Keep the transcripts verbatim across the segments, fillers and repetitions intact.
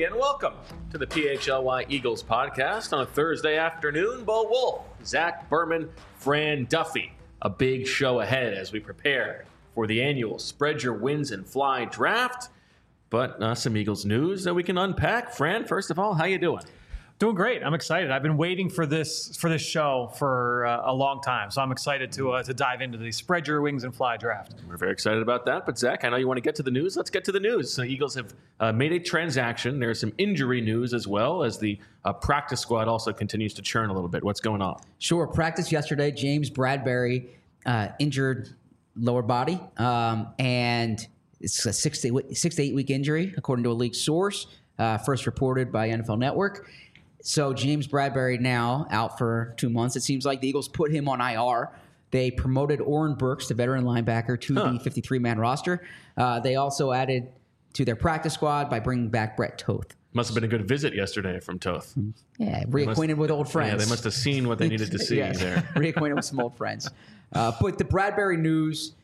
everybody, and welcome to the P H L Y Eagles podcast on a Thursday afternoon. Bo Wolf, Zach Berman, Fran Duffy. A big show ahead as we prepare for the annual Spread Your Wins and Fly draft. But uh, some Eagles news that we can unpack. Fran, first of all, how you doing? Doing great. I'm excited. I've been waiting for this for this show for uh, a long time, so I'm excited to uh, to dive into the Spread Your Wings and Fly draft. We're very excited about that. But Zach, I know you want to get to the news. Let's get to the news. The Eagles have uh, made a transaction. There's some injury news as well as the uh, practice squad also continues to churn a little bit. What's going on? Sure. Practice yesterday. James Bradberry uh, injured lower body, um, and it's a six to, eight, six to eight week injury, according to a league source, uh, first reported by N F L Network. So James Bradberry now out for two months. It seems like the Eagles put him on I R. They promoted Oren Burks, the veteran linebacker, to huh. the fifty-three man roster. Uh, they also added to their practice squad by bringing back Brett Toth. Must have been a good visit yesterday from Toth. Yeah, reacquainted must, with old friends. Yeah, they must have seen what they needed to see yes, there. Reacquainted with some old friends. Uh, but the Bradberry news,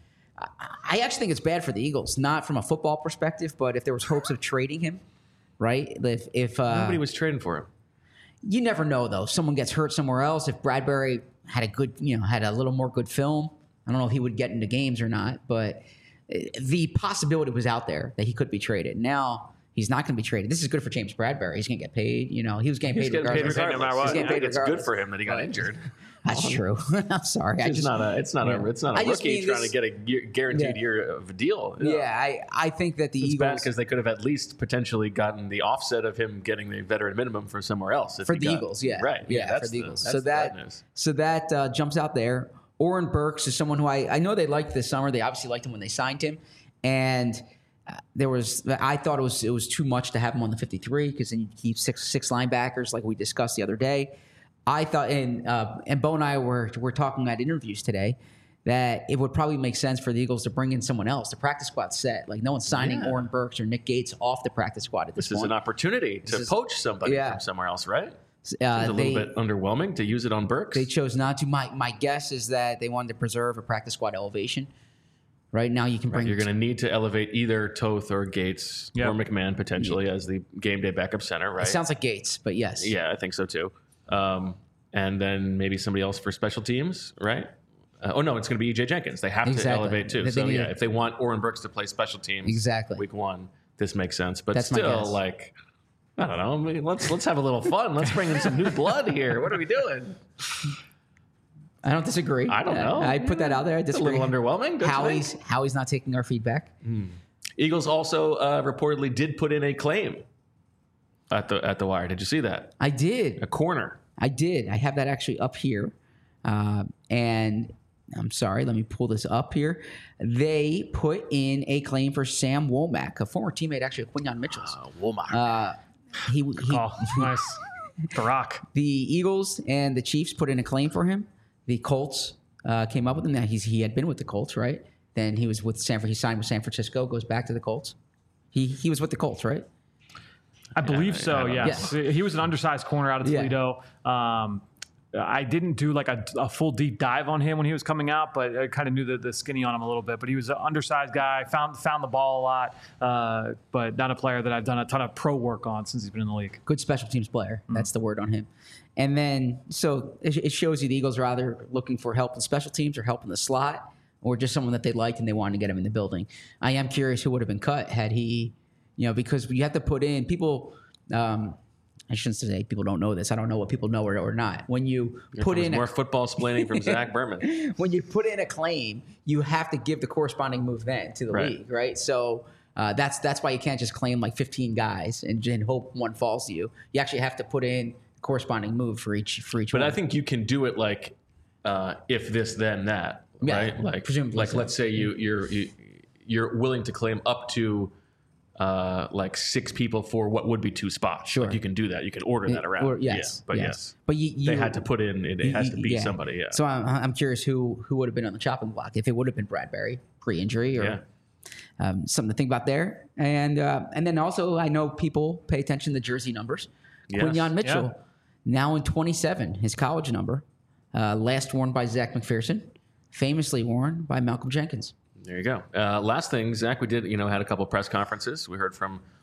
I actually think it's bad for the Eagles, not from a football perspective, but if there was hopes of trading him, right? If, if uh, Nobody was trading for him. You never know, though. Someone gets hurt somewhere else. If Bradberry had a good, you know, had a little more good film, I don't know if he would get into games or not, but the possibility was out there that he could be traded. Now he's not going to be traded. This is good for James Bradberry. He's going to get paid. You know, he was getting paid, he's getting regardless. paid regardless. No matter what. He's getting paid it's regardless. Good for him that he got injured. That's true. I'm sorry. It's I just, not a. It's not yeah. a. It's not a I rookie trying this, to get a year, guaranteed yeah. year of a deal. Yeah, yeah I, I think that the it's Eagles, bad because they could have at least potentially gotten the offset of him getting the veteran minimum for somewhere else. For the got, Eagles, yeah, right, yeah, yeah for the the, Eagles. So that news. so that uh, jumps out there. Oren Burks is someone who I I know they liked this summer. They obviously liked him when they signed him, and. Uh, there was, I thought it was it was too much to have him on the fifty-three because then you keep six six linebackers like we discussed the other day. I thought, and uh, and Bo and I were were talking at interviews today that it would probably make sense for the Eagles to bring in someone else. The practice squad's set. Like no one's signing yeah. Oren Burks or Nick Gates off the practice squad at this, this point. This is an opportunity to is, poach somebody yeah. from somewhere else, right? Uh, Seems a they, little bit underwhelming to use it on Burks. They chose not to. My my guess is that they wanted to preserve a practice squad elevation. Right now, you can bring. Right, you're going to need to elevate either Toth or Gates yep. or McMahon potentially yep. as the game day backup center, right? It sounds like Gates, but yes. Yeah, I think so too. Um, and then maybe somebody else for special teams, right? Uh, oh no, it's going to be E J Jenkins. They have exactly. to elevate too. They so yeah, it. if they want Oren Burks to play special teams, exactly. week one, this makes sense. But That's still, like, I don't know. I mean, let's let's have a little fun. Let's bring in some new blood here. What are we doing? I don't disagree. I don't know. I put that out there. I disagree. It's a little underwhelming. Howie's, Howie's not taking our feedback. Hmm. Eagles also uh, reportedly did put in a claim at the at the wire. Did you see that? I did. A corner. I did. I have that actually up here. Uh, and I'm sorry. Let me pull this up here. They put in a claim for Sam Womack, a former teammate actually of Quinyon Mitchell's. Uh, Womack. Uh, he, he, oh, nice. The Rock. The Eagles and the Chiefs put in a claim for him. The Colts uh, came up with him. Now he's he had been with the Colts, right? Then he was with San. He signed with San Francisco. Goes back to the Colts. He he was with the Colts, right? I believe yeah, so. I Yes, yeah. He was an undersized corner out of Toledo. Yeah. Um, I didn't do like a, a full deep dive on him when he was coming out, but I kind of knew the, the skinny on him a little bit. But he was an undersized guy, found found the ball a lot, uh, but not a player that I've done a ton of pro work on since he's been in the league. Good special teams player. Mm. That's the word on him. And then, so it, it shows you the Eagles are either looking for help in special teams or help in the slot, or just someone that they liked and they wanted to get him in the building. I am curious who would have been cut had he, you know, because you have to put in people. Um, I shouldn't say people don't know this. I don't know what people know or, or not. When you Here put in more a, football splaining from Zach Berman. When you put in a claim, you have to give the corresponding move then to the right. league, right? So uh, that's that's why you can't just claim like fifteen guys and, and hope one falls to you. You actually have to put in corresponding move for each for each. But one. I think you can do it like uh, if this then that, yeah, right? Like presumably like so. let's say you you're you, you're willing to claim up to. Uh, like six people for what would be two spots. Sure, like you can do that. You can order that around. Or, yes, yeah, but yes, yes. but you, you, they had to put in. It, it has to be yeah. somebody. Yeah. So I'm, I'm curious who who would have been on the chopping block if it would have been Bradberry pre-injury or yeah. um, something to think about there. And uh, and then also I know people pay attention to jersey numbers. Yes. Quinyon Mitchell Yeah. now in twenty-seven, his college number, uh, last worn by Zach McPherson, famously worn by Malcolm Jenkins. There you go. Uh, last thing, Zach, we did, you know, had a couple press conferences. We heard from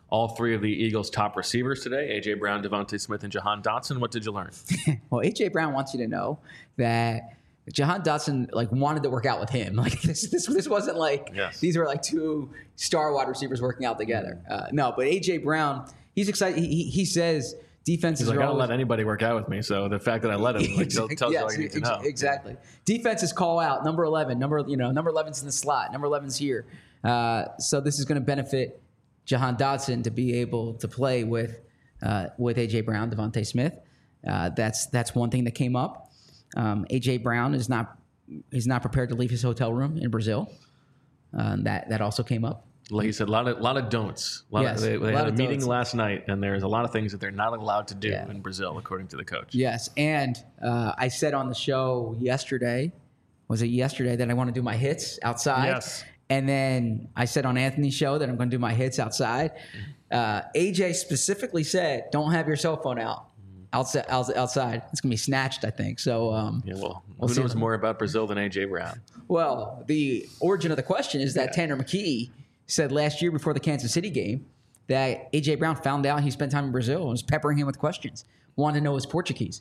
all three of the Eagles' top receivers today, A J. Brown, Devontae Smith, and Jahan Dotson. What did you learn? Well, A J. Brown wants you to know that Jahan Dotson like wanted to work out with him. Like this, this, this wasn't like yes. these were like two star wide receivers working out together. Uh, no, but A J. Brown, he's excited. He, he says defenses He's like, are I don't always, let anybody work out with me. So the fact that I let him like, tells you yes, all you need to know. Exactly. Defenses call out number eleven. Number you know number eleven's in the slot. Number eleven's here. Uh, so this is going to benefit Jahan Dotson to be able to play with uh, with A J. Brown, Devontae Smith. Uh, that's that's one thing that came up. Um, A J. Brown is not is not prepared to leave his hotel room in Brazil. Uh, that that also came up. Like you said, a lot of lot of don'ts. A lot Yes, of, they they a lot had a of meeting don'ts. last night, and there's a lot of things that they're not allowed to do Yeah. in Brazil, according to the coach. Yes, and uh, I said on the show yesterday, was it yesterday, that I want to do my hits outside? Yes. And then I said on Anthony's show that I'm going to do my hits outside. Uh, A J specifically said, "Don't have your cell phone out outside. Outside, it's going to be snatched." I think so. Um, Yeah, well, We'll who see. knows more about Brazil than A J. Brown? Well, the origin of the question is that Tanner McKee said last year before the Kansas City game that A J. Brown found out he spent time in Brazil and was peppering him with questions, wanted to know his Portuguese.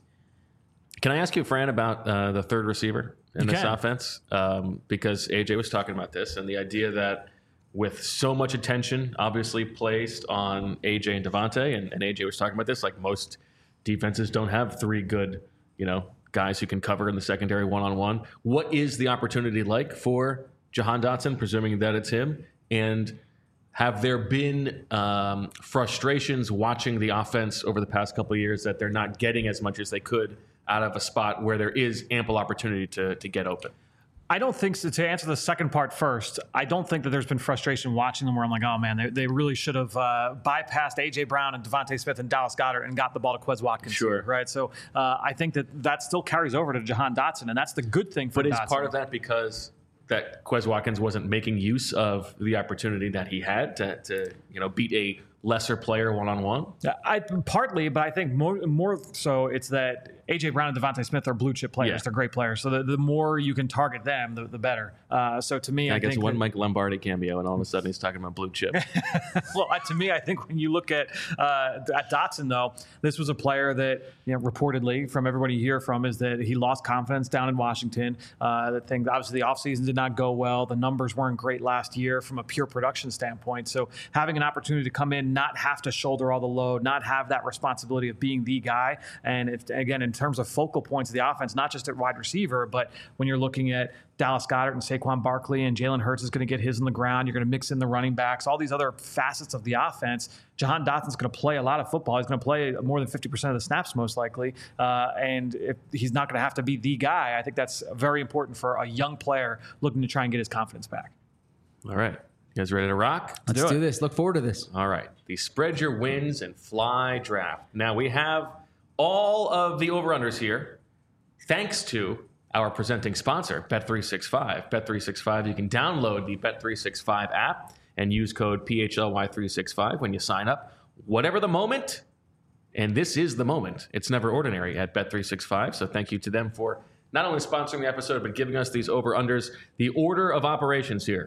Can I ask you, Fran, about uh, the third receiver in You this can. offense? Um, because A J was talking about this and the idea that with so much attention obviously placed on A J and Devontae, and, and A J was talking about this, like most defenses don't have three good, you know, guys who can cover in the secondary one-on-one. What is the opportunity like for Jahan Dotson, presuming that it's him? And have there been um, frustrations watching the offense over the past couple of years that they're not getting as much as they could out of a spot where there is ample opportunity to to get open? I don't think so. To answer the second part first, I don't think that there's been frustration watching them where I'm like, oh man, they, they really should have uh, bypassed A J. Brown and Devontae Smith and Dallas Goedert and got the ball to Quez Watkins. Sure. Right. So uh, I think that that still carries over to Jahan Dotson, and that's the good thing for But is Dotson. part of that because that Quez Watkins wasn't making use of the opportunity that he had to, to you know, beat a lesser player one-on-one? I partly, but I think more more so it's that A J. Brown and Devontae Smith are blue chip players. Yeah. They're great players. So the, the more you can target them, the, the better. Uh, so to me, I, I guess think one that- Mike Lombardi cameo, and all of a sudden he's talking about blue chip. well, uh, to me, I think when you look at uh, at Dotson, though, this was a player that, you know, reportedly from everybody you hear from is that he lost confidence down in Washington. Uh, the thing, obviously, the offseason did not go well. The numbers weren't great last year from a pure production standpoint. So having an opportunity to come in, not have to shoulder all the load, not have that responsibility of being the guy, and if, again, in terms of focal points of the offense, not just at wide receiver, but when you're looking at Dallas Goedert and Saquon Barkley, and Jalen Hurts is going to get his in the ground. You're going to mix in the running backs, all these other facets of the offense. Jahan Dotson's going to play a lot of football. He's going to play more than fifty percent of the snaps, most likely. Uh, and if he's not going to have to be the guy, I think that's very important for a young player looking to try and get his confidence back. All right. You guys ready to rock? Let's do do, it. this. Look forward to this. All right. The spread your wins and fly draft. Now we have all of the over-unders here thanks to our presenting sponsor, Bet three sixty-five. Bet three sixty-five, you can download the Bet three sixty-five app and use code P H L Y three sixty-five when you sign up. Whatever the moment, and this is the moment, it's never ordinary at Bet three sixty-five. So thank you to them for not only sponsoring the episode, but giving us these over-unders. The order of operations here.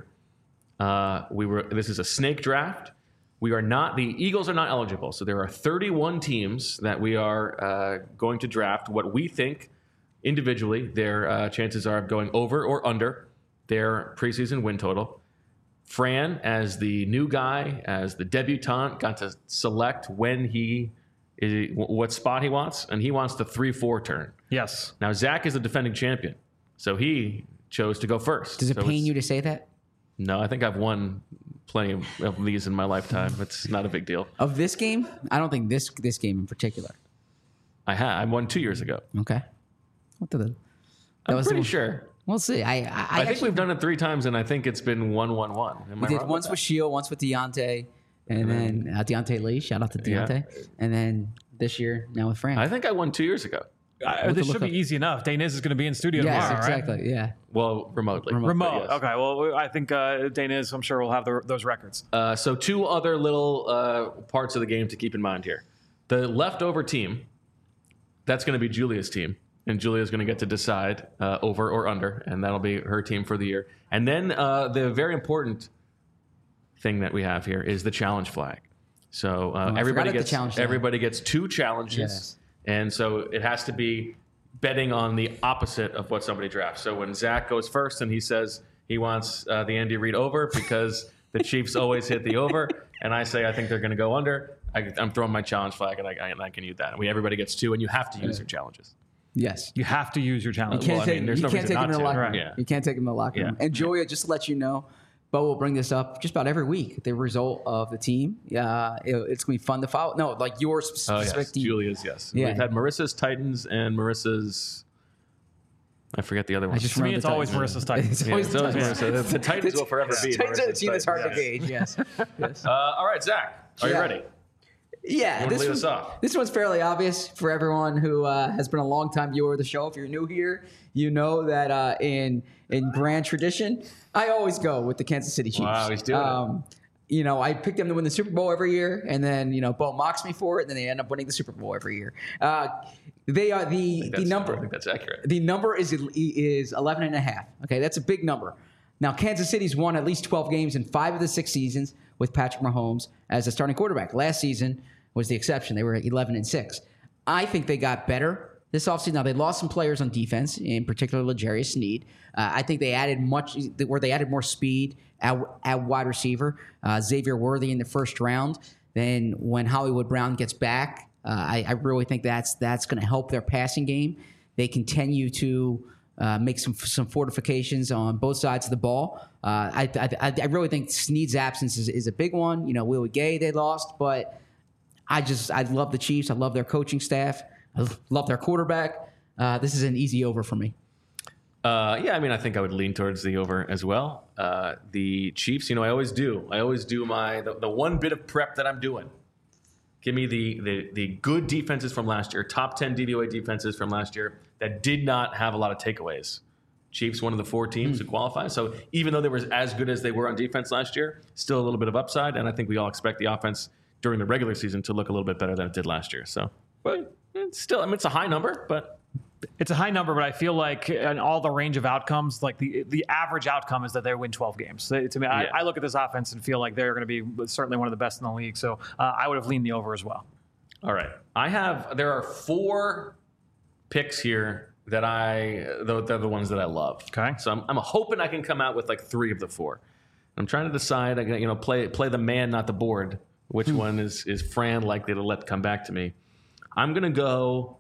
Uh, we were. This is a snake draft. We are not, the Eagles are not eligible. So there are thirty-one teams that we are uh, going to draft. What we think individually, their uh, chances are of going over or under their preseason win total. Fran, as the new guy, as the debutante, got to select when he, is, what spot he wants, and he wants the three four turn. Yes. Now, Zach is the defending champion, so he chose to go first. Does it So pain it's- you to say that? No, I think I've won plenty of, of these in my lifetime. It's not a big deal. Of this game? I don't think this this game in particular. I had. I won two years ago. Okay. What the? That I'm was the pretty one- sure. We'll see. I I, I, I, think actually- we've done it three times, and I think it's been one, one, one. Am We I did wrong once about with Shield, once with Deontay, and then uh, Deontay Lee. Shout out to Yeah. Deontay. And then this year, now with Fran. that? I think I won two years ago. Uh, this should be easy enough. Dane is going to be in studio yes, tomorrow, right? exactly. Yeah. Well, remotely. Remote. Remote. But yes. Okay. Well, I think uh, Dane is. I'm sure we'll have the, those records. Uh, so two other little uh, parts of the game to keep in mind here. The leftover team, that's going to be Julia's team. And Julia's going to get to decide uh, over or under, and that'll be her team for the year. And then uh, the very important thing that we have here is the challenge flag. So uh, Oh, I everybody forgot the gets challenge everybody gets two challenges, Yes. and so it has to be betting on the opposite of what somebody drafts. So when Zach goes first and he says he wants uh, the Andy Reid over because the Chiefs always hit the over, and I say I think they're going to go under, I, I'm throwing my challenge flag, and I, I, and I can use that. And we everybody gets two, and you have to use your challenges. Yes. You have to use your challenge. You can't Well, I take, mean, there's you no can't reason take him not in the to. locker Right. room. Yeah. You can't take him in the locker room. Yeah. And Julia, just to let you know, Bo will bring this up just about every week. The result of the team. Yeah, it, it's gonna be fun to follow. No, like your Oh specific yes, team. Julia's yes. Yeah. We've had Marissa's Titans and Marissa's. I forget the other one. I just To me, remember it's the always Titans. Marissa's Titans. It's Yeah, always it's the always Titans. Marissa. The, the Titans will forever be. Titans are the Marissa's team that's hard to Titans. gauge. Yes. yes. Uh, all right, Zach, are Yeah. you ready? Yeah, wanna this lead one, us off? this one's fairly obvious for everyone who uh, has been a long-time viewer of the show. If you're new here, you know that uh, in in grand tradition, I always go with the Kansas City Chiefs. Wow, he's doing it. um, You know, I pick them to win the Super Bowl every year, and then you know, Bo mocks me for it, and then they end up winning the Super Bowl every year. Uh, they are the the That's- number. I think that's accurate. The number is is eleven and a half. Okay, that's a big number. Now, Kansas City's won at least twelve games in five of the six seasons with Patrick Mahomes as a starting quarterback. Last season was the exception. They were at eleven and six. I think they got better this offseason. Now, they lost some players on defense, in particular L'Jarius Sneed. Uh, I think they added much, where they added more speed at, at wide receiver. Uh, Xavier Worthy in the first round. Then when Hollywood Brown gets back, uh, I, I really think that's that's going to help their passing game. They continue to uh, make some some fortifications on both sides of the ball. Uh, I, I I really think Sneed's absence is, is a big one. You know, Willie Gay they lost, but I just I love the Chiefs. I love their coaching staff. I love their quarterback. Uh, this is an easy over for me. Uh, yeah, I mean, I think I would lean towards the over as well. Uh, the Chiefs, you know, I always do. I always do my the, the one bit of prep that I'm doing. Give me the, the the good defenses from last year, top ten D V O A defenses from last year that did not have a lot of takeaways. Chiefs, one of the four teams Mm. to qualify. So even though they were as good as they were on defense last year, still a little bit of upside. And I think we all expect the offense during the regular season to look a little bit better than it did last year. So, but it's still, I mean, it's a high number, but It's a high number, but I feel like in all the range of outcomes, like the the average outcome is that they win twelve games. So to me, Yeah. I, I look at this offense and feel like they're going to be certainly one of the best in the league. So uh, I would have leaned the over as well. all right. I have, there are four picks here that I, they're the ones that I love. Okay. So I'm, I'm hoping I can come out with like three of the four. I'm trying to decide, I can, you know, play play the man, not the board. Which one is, is Fran likely to let come back to me? I'm going to go,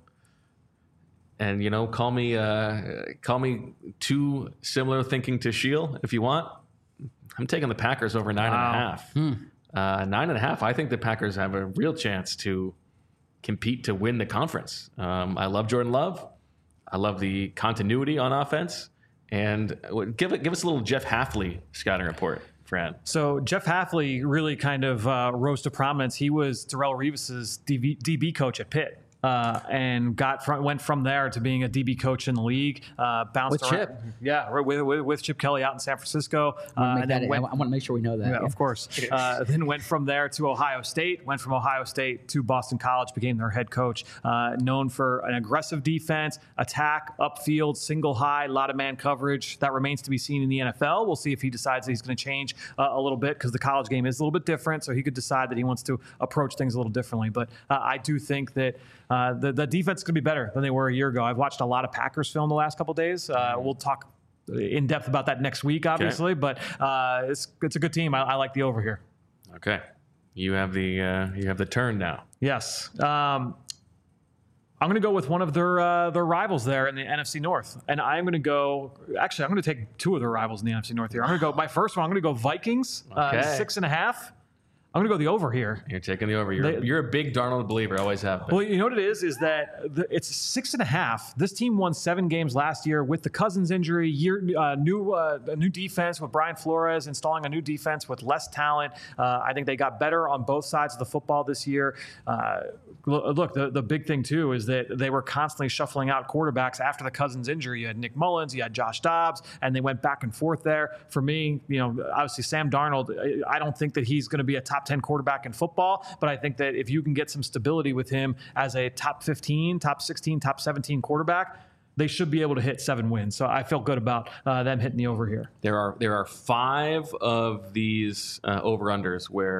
and, you know, call me uh, call me too similar thinking to Sheil if you want. I'm taking the Packers over nine Wow. and a half. Uh, nine and a half. I think the Packers have a real chance to compete to win the conference. Um, I love Jordan Love. I love the continuity on offense. And give it, give us a little Jeff Hafley scouting report, Fran. So Jeff Hafley really kind of uh, rose to prominence. He was Darrelle Revis's D B, D B coach at Pitt. Uh, and got from, went from there to being a D B coach in the league. Uh, bounced With around, Chip. yeah, with, with, with Chip Kelly out in San Francisco. Uh, Make and that- then went, I want to make sure we know that. yeah, of course. Uh, then went from there to Ohio State, went from Ohio State to Boston College, became their head coach. Uh, known for an aggressive defense, attack, upfield, single high, a lot of man coverage. That remains to be seen in the N F L. We'll see if he decides that he's going to change uh, a little bit because the college game is a little bit different. So he could decide that he wants to approach things a little differently. But uh, I do think that uh, the, the defense could be better than they were a year ago. I've watched a lot of Packers film the last couple of days. Uh, we'll talk in depth about that next week, obviously, but uh, it's it's a good team. I, I like the over here. Okay. You have the uh, you have the turn now. Yes. Um, I'm going to go with one of their uh, their rivals there in the N F C North, and I'm going to go. Actually, I'm going to take two of their rivals in the N F C North here. I'm going to go. My first one, I'm going to go Vikings, Okay. uh, six and a half. I'm going to go the over here. You're taking the over. You're, They- you're a big Darnold believer. Always have been. Well, you know what it is? Is that the, it's six and a half. This team won seven games last year with the Cousins injury. Year uh, new uh, a new defense with Brian Flores installing a new defense with less talent. Uh, I think they got better on both sides of the football this year. Uh, look, the, the big thing too is that they were constantly shuffling out quarterbacks after the Cousins injury. You had Nick Mullins, you had Josh Dobbs, and they went back and forth there. For me, you know, obviously Sam Darnold. I don't think that he's going to be a top ten quarterback in football, but I think that if you can get some stability with him as a top fifteen, top sixteen, top seventeen quarterback, they should be able to hit seven wins. So I feel good about uh, them hitting the over here. There are there are five of these uh, over unders where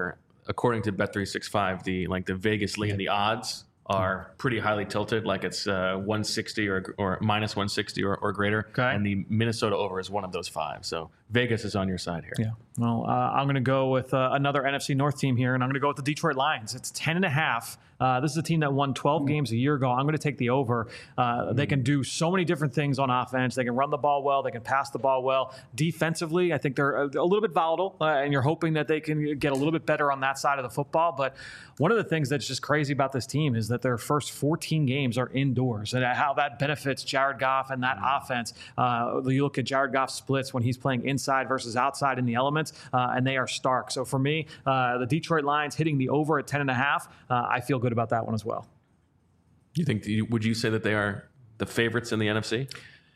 according to Bet three sixty-five, the like the Vegas lean, the odds are pretty highly tilted, like it's uh, one sixty or or minus one sixty or, or greater. Okay. And the Minnesota over is one of those five. So Vegas is on your side here. Yeah. Well, uh, I'm going to go with uh, another N F C North team here, and I'm going to go with the Detroit Lions. It's ten and a half. Uh, this is a team that won twelve mm. games a year ago. I'm going to take the over. Uh, mm. They can do so many different things on offense. They can run the ball well. They can pass the ball well. Defensively, I think they're a, a little bit volatile, uh, and you're hoping that they can get a little bit better on that side of the football. But one of the things that's just crazy about this team is that their first fourteen games are indoors, and how that benefits Jared Goff and that mm. offense. Uh, you look at Jared Goff's splits when he's playing inside versus outside in the elements, uh, and they are stark. So for me, uh, the Detroit Lions hitting the over at ten and a half, uh, I feel good about that one as well. You think? Would you say that they are the favorites in the N F C?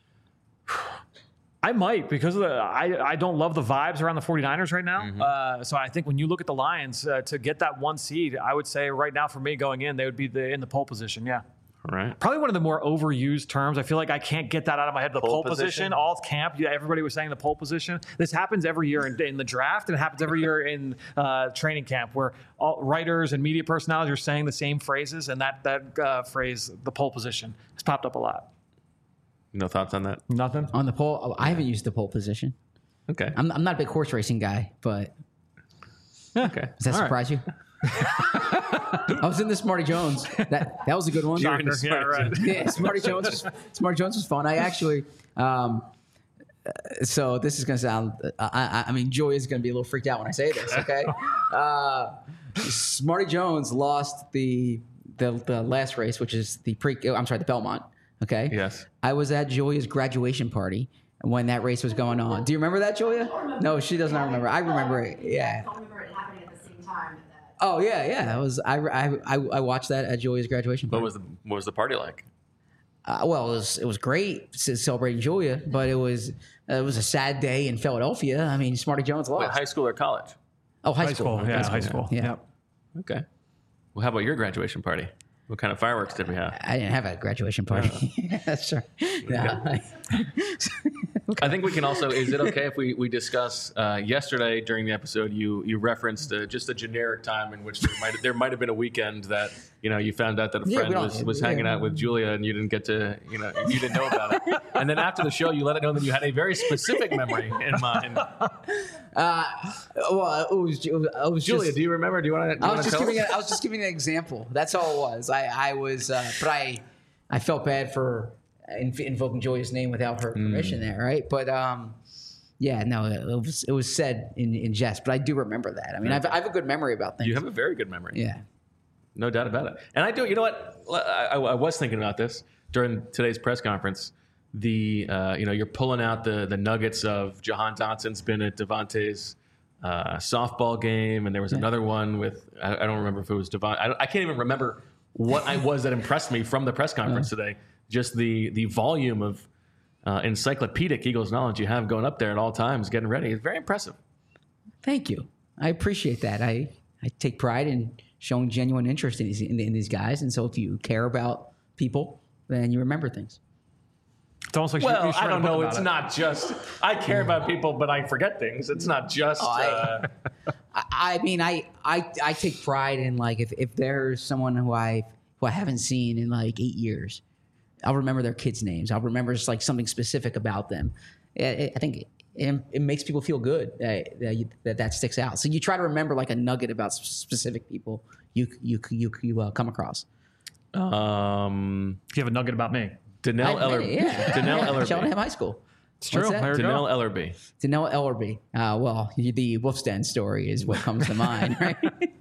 I might, because of the, I, I don't love the vibes around the 49ers right now. Mm-hmm. Uh, so I think when you look at the Lions, uh, to get that one seed, I would say right now for me going in, they would be the, in the pole position. Yeah. All right. Probably one of the more overused terms. I feel like I can't get that out of my head. The pole, pole position, position, all camp. Yeah, everybody was saying the pole position. This happens every year in, in the draft, and it happens every year in uh, training camp, where all writers and media personalities are saying the same phrases, and that that uh, phrase, the pole position, has popped up a lot. No thoughts on that? Nothing on the pole. Oh, I haven't used the pole position. Okay. I'm, I'm not a big horse racing guy, but okay. Does that all surprise right. you? I was in the Smarty Jones. That that was a good one. Soccer, yeah, right. Yeah, Smarty Jones. Was, Smarty Jones was fun. I actually. Um, so this is gonna sound. Uh, I, I mean, Joy is gonna be a little freaked out when I say this. Okay. Uh, Smarty Jones lost the the the last race, which is the pre. I'm sorry, the Belmont. Okay. Yes. I was at Julia's graduation party when that race was going on. Do you remember that, Julia? No, she does not remember. I remember it. Yeah. I remember it happening at the same time. Oh yeah, yeah. I was I, I, I watched that at Julia's graduation party. What was the what was the party like? Uh, well, it was it was great celebrating Julia, but it was uh, it was a sad day in Philadelphia. I mean, Smarty Jones lost. Wait, high school or college? Oh, high, high school. school. Yeah, high high school. school. Yeah. Yep. Okay. Well, how about your graduation party? What kind of fireworks did we have? I didn't have a graduation party. Uh, That's right. No. I think we can also, is it okay if we, we discuss, uh, yesterday during the episode, you you referenced uh, just a generic time in which there might there might have been a weekend that, you know, you found out that a Yeah, friend we don't- was, was yeah. hanging out with Julia and you didn't get to, you know, you didn't know about it. And then after the show, you let it know that you had a very specific memory in mind. Uh, well, it was, it was, it was Julia, just, do you remember? Do you want to I was just tell giving us? a, I was just giving an example. That's all it was. I I was, uh, but I I felt bad for inv- invoking Julia's name without her permission there, right? But um, yeah, no, it was it was said in, in jest, but I do remember that. I mean, I've, I have a good memory about things. You have a very good memory. Yeah. No doubt about it. And I do, you know what? I, I, I was thinking about this during today's press conference. The, uh, you know, you're pulling out the the nuggets of Jahan Dotson's been at Devontae's uh, softball game, and there was Yeah. another one with, I, I don't remember if it was Devon. I, don't- I can't even remember what I was that impressed me from the press conference today. Just the the volume of uh, encyclopedic Eagles knowledge you have going up there at all times, getting ready. It's very impressive. Thank you. I appreciate that. I, I take pride in showing genuine interest in these in, in these guys, and so if you care about people, then you remember things. It's almost like you- Well, you should I write a don't book know. about It's it. not just, I care about people, but I forget things. It's not just. Oh, I- uh, I, I mean, I, I I take pride in like if, if there's someone who I who I haven't seen in like eight years, I'll remember their kids' names. I'll remember just like something specific about them. It, it, I think it, it makes people feel good that that, you, that that sticks out. So you try to remember like a nugget about s- specific people you you you you uh, come across. um, You have a nugget about me. Danelle I- Ellerby. yeah, Danelle yeah, Ellerby. Cheltenham High School. It's true. What's that? There we go. Danelle Ellerby. Danelle Ellerby. Uh, well, the Wolf's Den story is what comes to mind, right?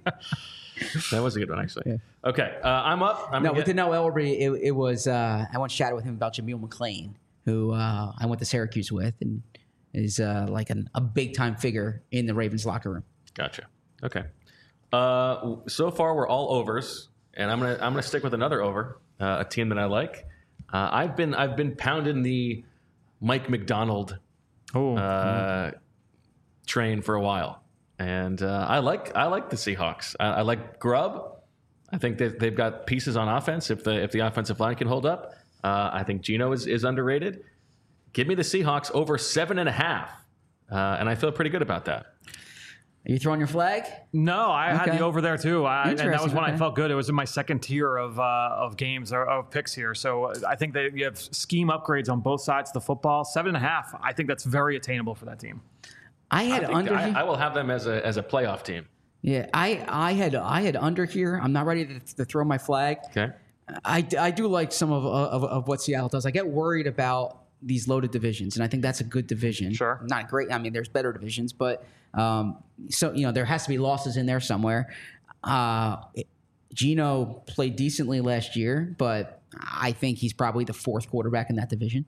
That was a good one, actually. Okay, uh, I'm up. I'm No, gonna with get- Danelle Ellerby, it, it was, uh, I once chatted with him about Jameel McClain, who uh, I went to Syracuse with and is uh, like an, a big time figure in the Ravens locker room. Gotcha. Okay. Uh, so far, we're all overs, and I'm gonna I'm gonna stick with another over, uh, a team that I like. Uh, I've been I've been pounding the Mike McDonald Oh, uh, train for a while, and uh, I like I like the Seahawks. I, I like Grubb. I think that they've got pieces on offense. If the if the offensive line can hold up, uh, I think Geno is, is underrated. Give me the Seahawks over seven and a half, uh, and I feel pretty good about that. Are you throwing your flag? No, I had Okay. the over there too. I, and that was Interesting, when I okay. felt good. It was in my second tier of uh, of games or of picks here. So uh, I think that you have scheme upgrades on both sides of the football. Seven and a half. I think that's very attainable for that team. I I, had think under. I, I will have them as a as a playoff team. yeah, I I had I had under here. I'm not ready to, to throw my flag. Okay. I, I do like some of, of of what Seattle does. I get worried about these loaded divisions, and I think that's a good division. Sure. Not great. I mean, there's better divisions, but um, so you know there has to be losses in there somewhere. Uh, Geno played decently last year, but I think he's probably the fourth quarterback in that division.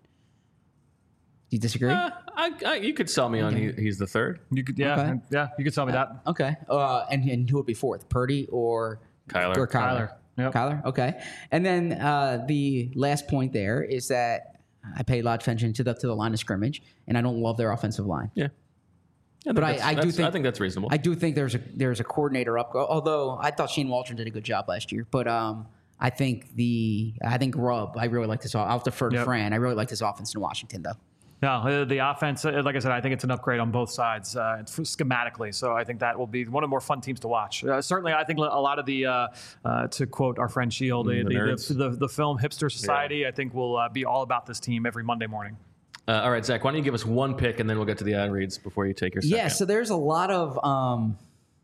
Do you disagree? Uh, I, I, you could sell me on he, he's the third. You could, yeah, Okay. yeah, you could tell me that. Okay. Uh, and and who would be fourth? Purdy or Kyler. Or Kyler. Kyler. Yep. Kyler. Okay. And then uh, the last point there is that I pay a lot of attention to the to the line of scrimmage, and I don't love their offensive line. Yeah. Yeah, But I- that's- I do that's- think- I think that's reasonable. I do think there's a there's a coordinator up. Although I thought Shane Waldron did a good job last year, but um, I think the I think Grubb. I really like this. I'll defer to Yep. Fran. I really like this offense in Washington, though. No, uh, the offense, uh, like I said, I think it's an upgrade on both sides uh, it's schematically. So I think that will be one of the more fun teams to watch. Uh, certainly, I think a lot of the, uh, uh, to quote our friend Shield, the, Mm, the the, nerds. the, the, the film Hipster Society, I think will uh, be all about this team every Monday morning. Uh, all right, Zach, why don't you give us one pick and then we'll get to the ad reads before you take your second. Yeah. So there's a lot of um,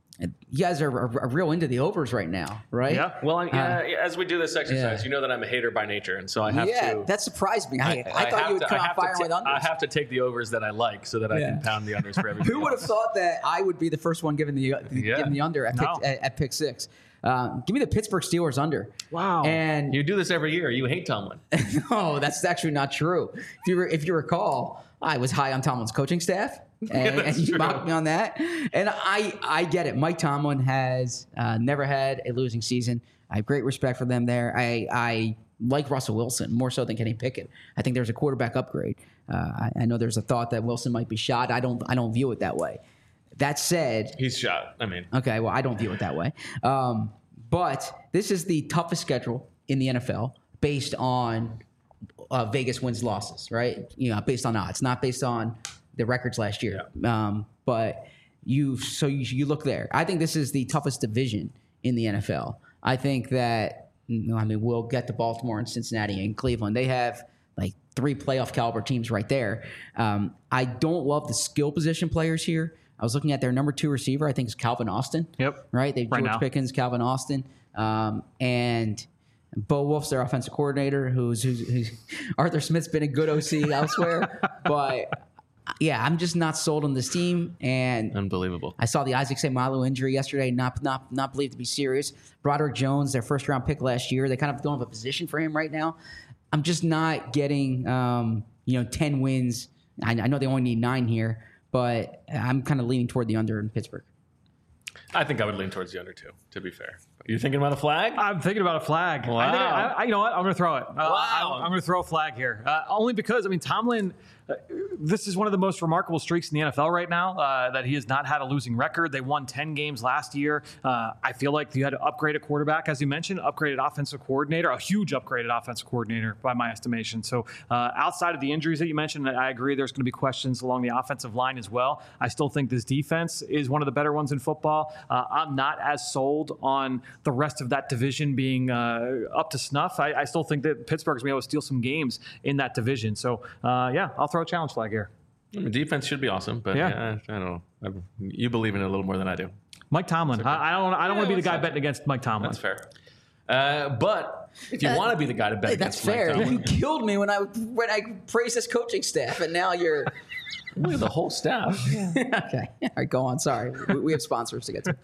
you guys are, are, are real into the overs right now, right? Yeah. Well, I, yeah, as we do this exercise, yeah. you know that I'm a hater by nature, and so I have yeah, to. that surprised me. I, I, thought have you would to- come I out have to firing ta- with unders. I have to take the overs that I like so that I Yeah. can pound the unders for everybody. Who would have else. thought that I would be the first one giving the, the Yeah. giving the under at pick, No. at, at pick six? Uh, give me the Pittsburgh Steelers under. Wow. And You do this every year. You hate Tomlin. no, that's actually not true. If you re- if you recall, I was high on Tomlin's coaching staff, and, and that's you true. mocked me on that. And I I get it. Mike Tomlin has uh, never had a losing season. I have great respect for them there. I I like Russell Wilson more so than Kenny Pickett. I think there's a quarterback upgrade. Uh, I, I know there's a thought that Wilson might be shot. I don't I don't view it that way. That said, He's shot. I mean, okay, well, I don't view it that way. Um, but this is the toughest schedule in the N F L based on uh, Vegas wins losses, right? You know, based on odds, not based on the records last year. Um, but you, so you, you look there. I think this is the toughest division in the N F L. I think that, you know, I mean, we'll get to Baltimore and Cincinnati and Cleveland. They have like three playoff caliber teams right there. Um, I don't love the skill position players here. I was looking at their number two receiver. I think it's Calvin Austin. Yep. Right. They Right George now. Pickens, Calvin Austin, um, and Bo Wolf's their offensive coordinator. Who's, who's, who's Arthur Smith's been a good O C elsewhere, but yeah, I'm just not sold on this team. And unbelievable. I saw the Isaac Seumalo injury yesterday, not not not believed to be serious. Broderick Jones, their first round pick last year, they kind of don't have a position for him right now. I'm just not getting um, you know ten wins. I, I know they only need nine here, but I'm kind of leaning toward the under in Pittsburgh. I think I would lean towards the under two, to be fair. Are you thinking about a flag? I'm thinking about a flag. Wow. I think I, I, you know what? I'm going to throw it. Uh, Wow. I'm, I'm going to throw a flag here. Uh, only because, I mean, Tomlin, uh, this is one of the most remarkable streaks in the N F L right now, uh, that he has not had a losing record. They won ten games last year. Uh, I feel like you had to upgrade a quarterback, as you mentioned, upgraded offensive coordinator, a huge upgraded offensive coordinator by my estimation. So uh, outside of the injuries that you mentioned, I agree there's going to be questions along the offensive line as well. I still think this defense is one of the better ones in football. Uh, I'm not as sold on the rest of that division being uh, up to snuff. I, I still think that Pittsburgh's going to be able to steal some games in that division. So, uh, yeah, I'll throw a challenge flag here. I mean, defense should be awesome, but Yeah. yeah, I don't know. I, you believe in it a little more than I do. Mike Tomlin. I, I don't. I don't Yeah, want to be the that's guy not- betting against Mike Tomlin. That's fair. Uh, but if you Uh, want to be the guy to bet Hey, that's against Mike fair. Tomlin, You killed me when I when I praised this coaching staff, and now you're look at the whole staff. okay. All right, go on. Sorry, we, we have sponsors to get to.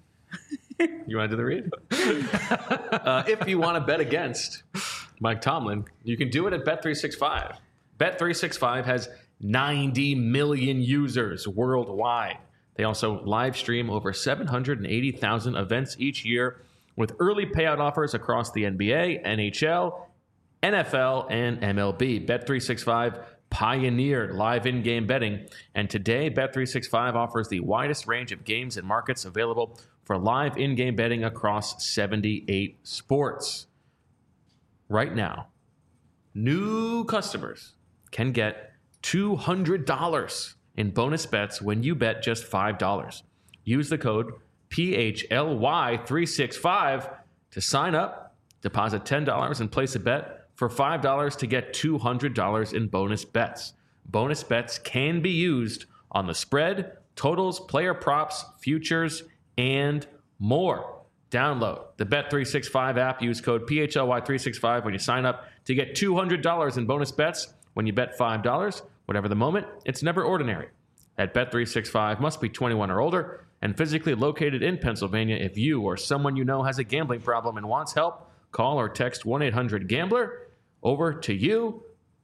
You want to do the read? uh, if you want to bet against Mike Tomlin, you can do it at Bet three sixty-five. Bet three sixty-five has ninety million users worldwide. They also live stream over seven hundred eighty thousand events each year with early payout offers across the N B A, N H L, N F L, and M L B. Bet three sixty-five pioneered live in-game betting, and today Bet three sixty-five offers the widest range of games and markets available for live in-game betting across seventy-eight sports. Right now, new customers can get two hundred dollars in bonus bets when you bet just five dollars. Use the code P H L Y three sixty-five to sign up, deposit ten dollars, and place a bet for five dollars to get two hundred dollars in bonus bets. Bonus bets can be used on the spread, totals, player props, futures, and more. Download the Bet three sixty-five app. Use code P H L Y three sixty-five when you sign up to get two hundred dollars in bonus bets when you bet five dollars. Whatever the moment, it's never ordinary. At Bet three sixty-five, must be twenty-one or older and physically located in Pennsylvania. If you or someone you know has a gambling problem and wants help, call or text one eight hundred gambler. Over to you,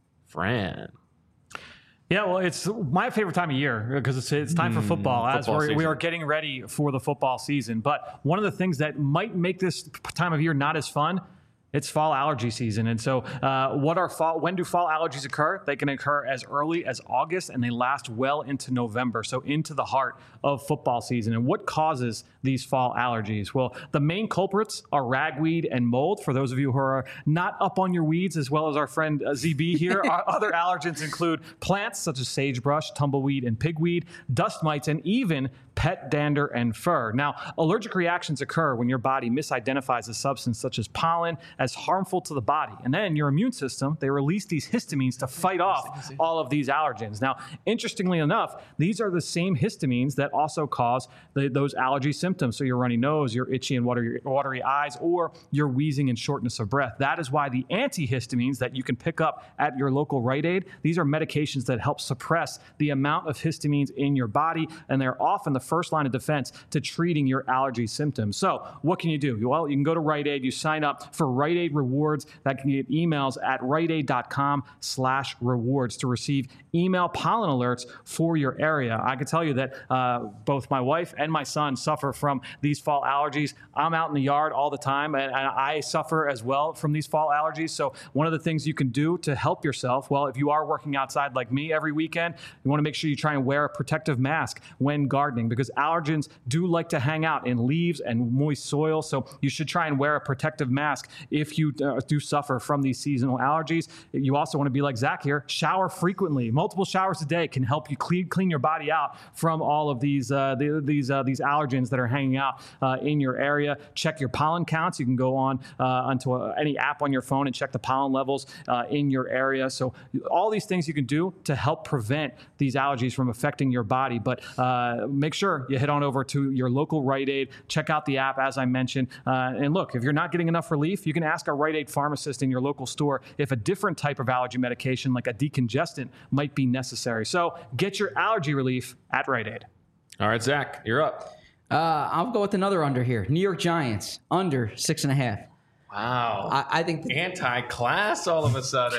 Fran. Yeah, well, it's my favorite time of year because it's, it's time for football, as football we're, we season. are getting ready for the football season. But one of the things that might make this time of year not as fun, it's fall allergy season. And so uh, what are fall, when do fall allergies occur? They can occur as early as August, and they last well into November, so into the heart of football season. And what causes these fall allergies? Well, the main culprits are ragweed and mold. For those of you who are not up on your weeds, as well as our friend uh, Z B here, our other allergens include plants such as sagebrush, tumbleweed, and pigweed, dust mites, and even pet dander and fur. Now, allergic reactions occur when your body misidentifies a substance such as pollen as harmful to the body. And then your immune system, they release these histamines to fight off all of these allergens. Now, interestingly enough, these are the same histamines that also cause the, those allergy symptoms. So your runny nose, your itchy and watery, watery eyes, or your wheezing and shortness of breath. That is why the antihistamines that you can pick up at your local Rite Aid, these are medications that help suppress the amount of histamines in your body, and they're often the first line of defense to treating your allergy symptoms. So what can you do? Well, you can go to Rite Aid, you sign up for Rite Aid Rewards. That can get emails at riteaid.com slash rewards to receive email pollen alerts for your area. I can tell you that uh, both my wife and my son suffer from these fall allergies. I'm out in the yard all the time, and, and I suffer as well from these fall allergies. So one of the things you can do to help yourself, well, if you are working outside like me every weekend, you want to make sure you try and wear a protective mask when gardening, because allergens do like to hang out in leaves and moist soil. So you should try and wear a protective mask if you uh, do suffer from these seasonal allergies. You also want to be like Zach here, shower frequently. Multiple showers a day can help you clean clean your body out from all of these uh, the, these uh, these allergens that are hanging out uh, in your area. Check your pollen counts. You can go on uh, onto a, any app on your phone and check the pollen levels uh, in your area. So all these things you can do to help prevent these allergies from affecting your body. But uh, make sure you head on over to your local Rite Aid. Check out the app, as I mentioned. Uh, and look, if you're not getting enough relief, you can ask a Rite Aid pharmacist in your local store if a different type of allergy medication, like a decongestant, might be necessary. So get your allergy relief at Rite Aid. All right, Zach, you're up. Uh, I'll go with another under here. New York Giants, under six and a half. Wow. I, I think the, Anti-class all of a sudden.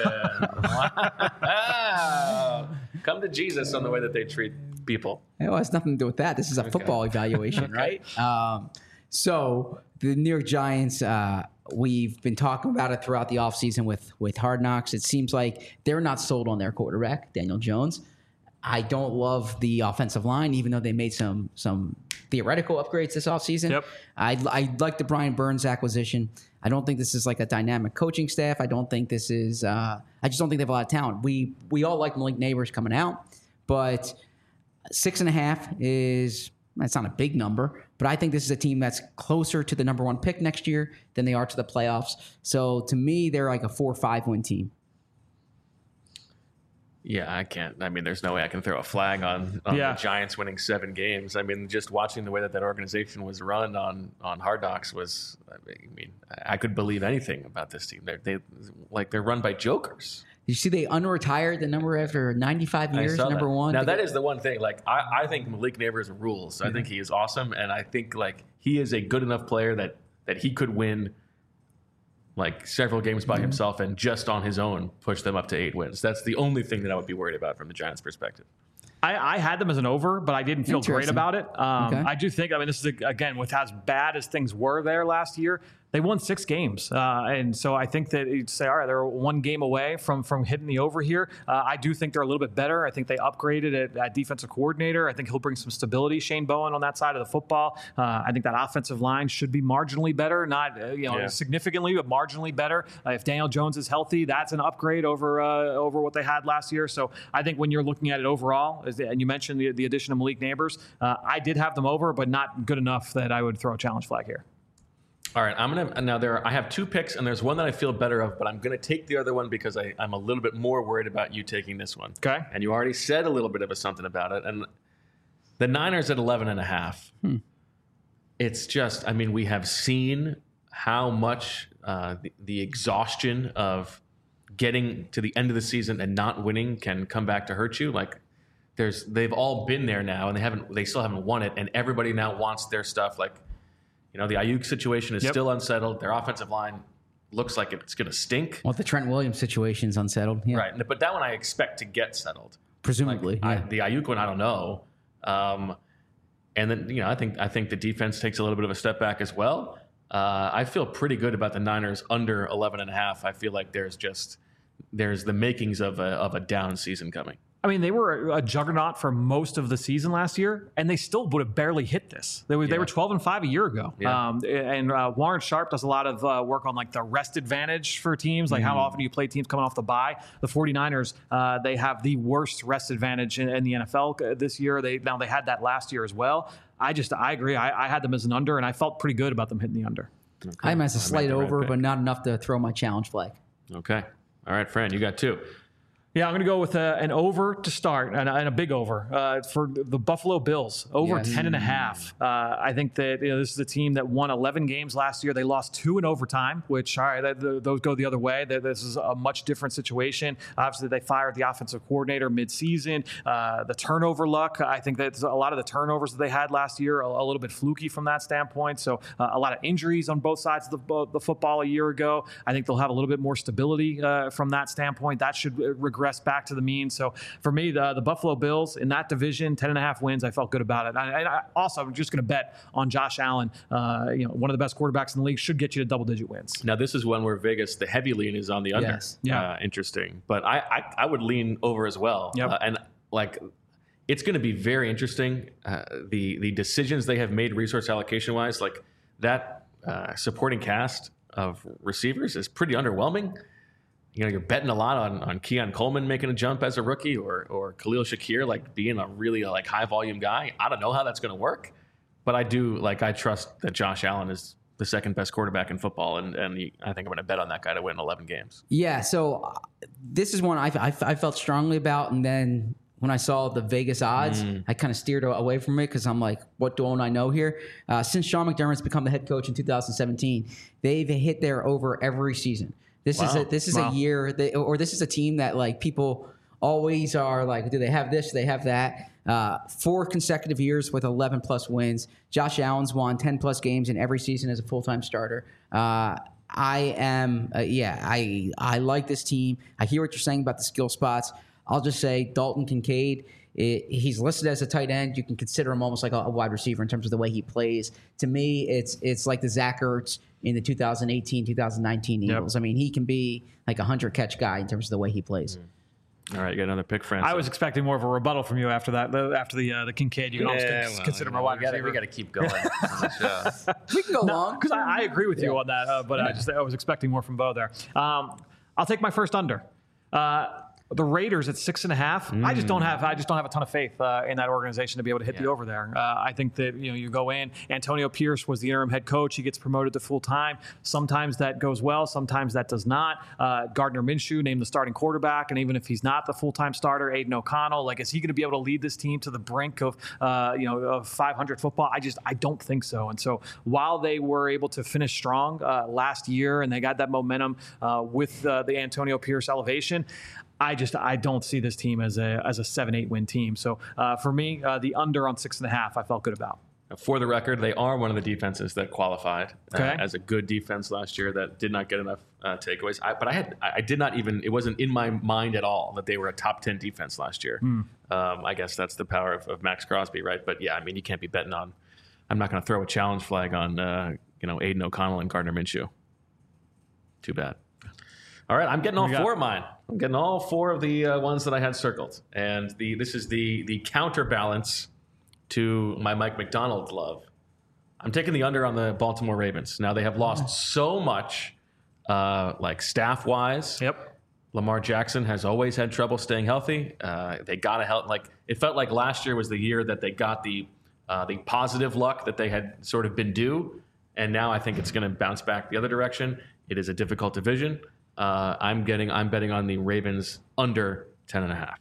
Wow. Come to Jesus on the way that they treat people. it has nothing to do with that. This is a football evaluation, right? Um, so the New York Giants, uh, we've been talking about it throughout the offseason with, with Hard Knocks. It seems like they're not sold on their quarterback, Daniel Jones. I don't love the offensive line, even though they made some some theoretical upgrades this offseason. Yep. I, I like the Brian Burns acquisition. I don't think this is like a dynamic coaching staff. I don't think this is uh, – I just don't think they have a lot of talent. We we all like Malik Neighbors coming out, but six and a half is – that's not a big number, but I think this is a team that's closer to the number one pick next year than they are to the playoffs. So to me, they're like a four or five win team. Yeah, I can't. I mean, there's no way I can throw a flag on, on Yeah. the Giants winning seven games. I mean, just watching the way that that organization was run on, on Hard Knocks was, I mean, I could believe anything about this team. They're, they like they're run by jokers. You see, they unretired the number after ninety-five I years, saw number that. one. Now, They that got- is the one thing. Like, I, I think Malik Neighbors rules. I think he is awesome, and I think like he is a good enough player that that he could win like several games by himself and just on his own push them up to eight wins. That's the only thing that I would be worried about from the Giants' perspective. I, I had them as an over, but I didn't feel great Interesting. about it. Um, Okay. I do think, I mean, this is, a, again, with as bad as things were there last year, they won six games. Uh, and so I think that you'd say, all right, they're one game away from from hitting the over here. Uh, I do think they're a little bit better. I think they upgraded at, at defensive coordinator. I think he'll bring some stability, Shane Bowen, on that side of the football. Uh, I think that offensive line should be marginally better, not uh, you know Yeah. significantly, but marginally better. Uh, if Daniel Jones is healthy, that's an upgrade over uh, over what they had last year. So I think when you're looking at it overall, Is the, and you mentioned the, the addition of Malik Neighbors. Uh, I did have them over, but not good enough that I would throw a challenge flag here. All right, I'm gonna now. There, are, I have two picks, and there's one that I feel better of, but I'm gonna take the other one because I, I'm a little bit more worried about you taking this one. Okay. And you already said a little bit of a something about it, and the Niners at eleven and a half. Hmm. It's just, I mean, we have seen how much uh, the, the exhaustion of getting to the end of the season and not winning can come back to hurt you. Like, there's, they've all been there now, and they haven't, they still haven't won it, and everybody now wants their stuff. Like, you know, the Ayuk situation is yep. still unsettled. Their offensive line looks like it's going to stink. Well, the Trent Williams situation's unsettled. Yeah. Right. But that one I expect to get settled. Presumably. Like, yeah. I, the Ayuk one, I don't know. Um, and then, you know, I think I think the defense takes a little bit of a step back as well. Uh, I feel pretty good about the Niners under eleven and a half. I feel like there's just there's the makings of a, of a down season coming. I mean, they were a juggernaut for most of the season last year, and they still would have barely hit this. They were, yeah. they were twelve and five a year ago. Yeah. Um, and uh, Warren Sharp does a lot of uh, work on like the rest advantage for teams, like mm. how often do you play teams coming off the bye. The 49ers, uh, they have the worst rest advantage in, in the N F L this year. They Now, they had that last year as well. I just, I agree. I, I had them as an under, and I felt pretty good about them hitting the under. Okay. I am as a slight over, right but not enough to throw my challenge flag. Okay. All right, Fran, you got two. Yeah, I'm going to go with a, an over to start and a, and a big over uh, for the Buffalo Bills. Over yes. ten and a half. Uh, I think that you know, this is a team that won eleven games last year. They lost two in overtime, which, all right, that, the, those go the other way. That This is a much different situation. Obviously, they fired the offensive coordinator midseason. Uh, the turnover luck, I think that a lot of the turnovers that they had last year are a little bit fluky from that standpoint. So uh, a lot of injuries on both sides of the, the football a year ago. I think they'll have a little bit more stability uh, from that standpoint. That should regress back to the mean. So for me, the, the Buffalo Bills in that division, ten and a half wins, I felt good about it. And I, I also, I'm just going to bet on Josh Allen. Uh, you know, one of the best quarterbacks in the league, should get you to double digit wins. Now, this is one where Vegas, the heavy lean is on the under. Yes. Yeah. Uh, interesting. But I, I, I would lean over as well. Yep. Uh, and like, it's going to be very interesting. Uh, the, the decisions they have made resource allocation wise, like that uh, supporting cast of receivers is pretty underwhelming. You know, you're betting a lot on, on Keon Coleman making a jump as a rookie, or or Khalil Shakir like being a really like high volume guy. I don't know how that's going to work, but I do like I trust that Josh Allen is the second best quarterback in football, and and he, I think I'm going to bet on that guy to win eleven games. Yeah, so uh, this is one I, I, I felt strongly about, and then when I saw the Vegas odds, mm. I kind of steered away from it because I'm like, what don't I know here? Uh, since Sean McDermott's become the head coach in two thousand seventeen, they've hit their over every season. This wow. is a, this is wow. a year that, or this is a team that like people always are like, do they have this? Do they have that? Uh, four consecutive years with eleven plus wins. Josh Allen's won ten plus games in every season as a full time starter. Uh, I am, uh, yeah, I I like this team. I hear what you're saying about the skill spots. I'll just say Dalton Kincaid. It, he's listed as a tight end. You can consider him almost like a, a wide receiver in terms of the way he plays. To me, it's it's like the Zach Ertz in the two thousand eighteen, two thousand nineteen Eagles. Yep. I mean, he can be like a hundred catch guy in terms of the way he plays. Mm. All right, you got another pick, Francis. I was expecting more of a rebuttal from you after that. After the uh, the Kincaid, you can yeah, almost well, consider you him a wide we gotta, receiver. We got to keep going. We can go no, long because I, I agree with yeah. you on that. Uh, but yeah. I just I was expecting more from Bo there. Um, I'll take my first under. Uh, The Raiders at six and a half. Mm. I just don't have. I just don't have a ton of faith uh, in that organization to be able to hit yeah. the over there. Uh, I think that you know you go in. Antonio Pierce was the interim head coach. He gets promoted to full time. Sometimes that goes well. Sometimes that does not. Uh, Gardner Minshew named the starting quarterback, and even if he's not the full time starter, Aiden O'Connell, like is he going to be able to lead this team to the brink of uh, you know of five hundred football? I just I don't think so. And so while they were able to finish strong uh, last year and they got that momentum uh, with uh, the Antonio Pierce elevation, I just I don't see this team as a as a seven eight win team. So uh, for me, uh, the under on six and a half, I felt good about. For the record, they are one of the defenses that qualified okay. uh, as a good defense last year that did not get enough uh, takeaways. I, but I had I did not even it wasn't in my mind at all that they were a top ten defense last year. Hmm. Um, I guess that's the power of, of Max Crosby, right? But yeah, I mean you can't be betting on. I'm not going to throw a challenge flag on uh, you know Aiden O'Connell and Gardner Minshew. Too bad. All right, I'm getting all four of mine. I'm getting all four of the uh, ones that I had circled, and the this is the the counterbalance to my Mike McDonald love. I'm taking the under on the Baltimore Ravens. Now they have lost so much, uh, like staff wise. Yep. Lamar Jackson has always had trouble staying healthy. Uh, they got to help. Like it felt like last year was the year that they got the uh, the positive luck that they had sort of been due, and now I think it's going to bounce back the other direction. It is a difficult division. Uh, I'm getting. I'm betting on the Ravens under ten and a half.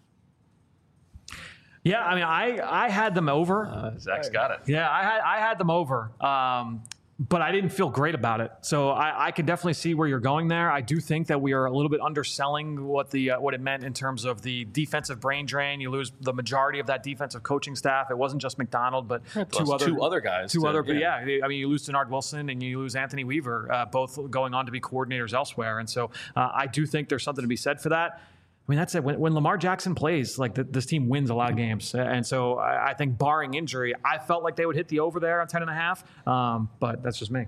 Yeah, I mean, I I had them over. Uh, Zach's got it. Yeah, I had I had them over. Um, but I didn't feel great about it. So I, I can definitely see where you're going there. I do think that we are a little bit underselling what the uh, what it meant in terms of the defensive brain drain. You lose the majority of that defensive coaching staff. It wasn't just McDonald, but two other two other guys. Two too, other, yeah. yeah. I mean, you lose Denard Wilson and you lose Anthony Weaver, uh, both going on to be coordinators elsewhere. And so uh, I do think there's something to be said for that. I mean, that's it. When, when Lamar Jackson plays, like the, this team wins a lot of games. And so I, I think barring injury, I felt like they would hit the over there on ten and a half. Um, but that's just me.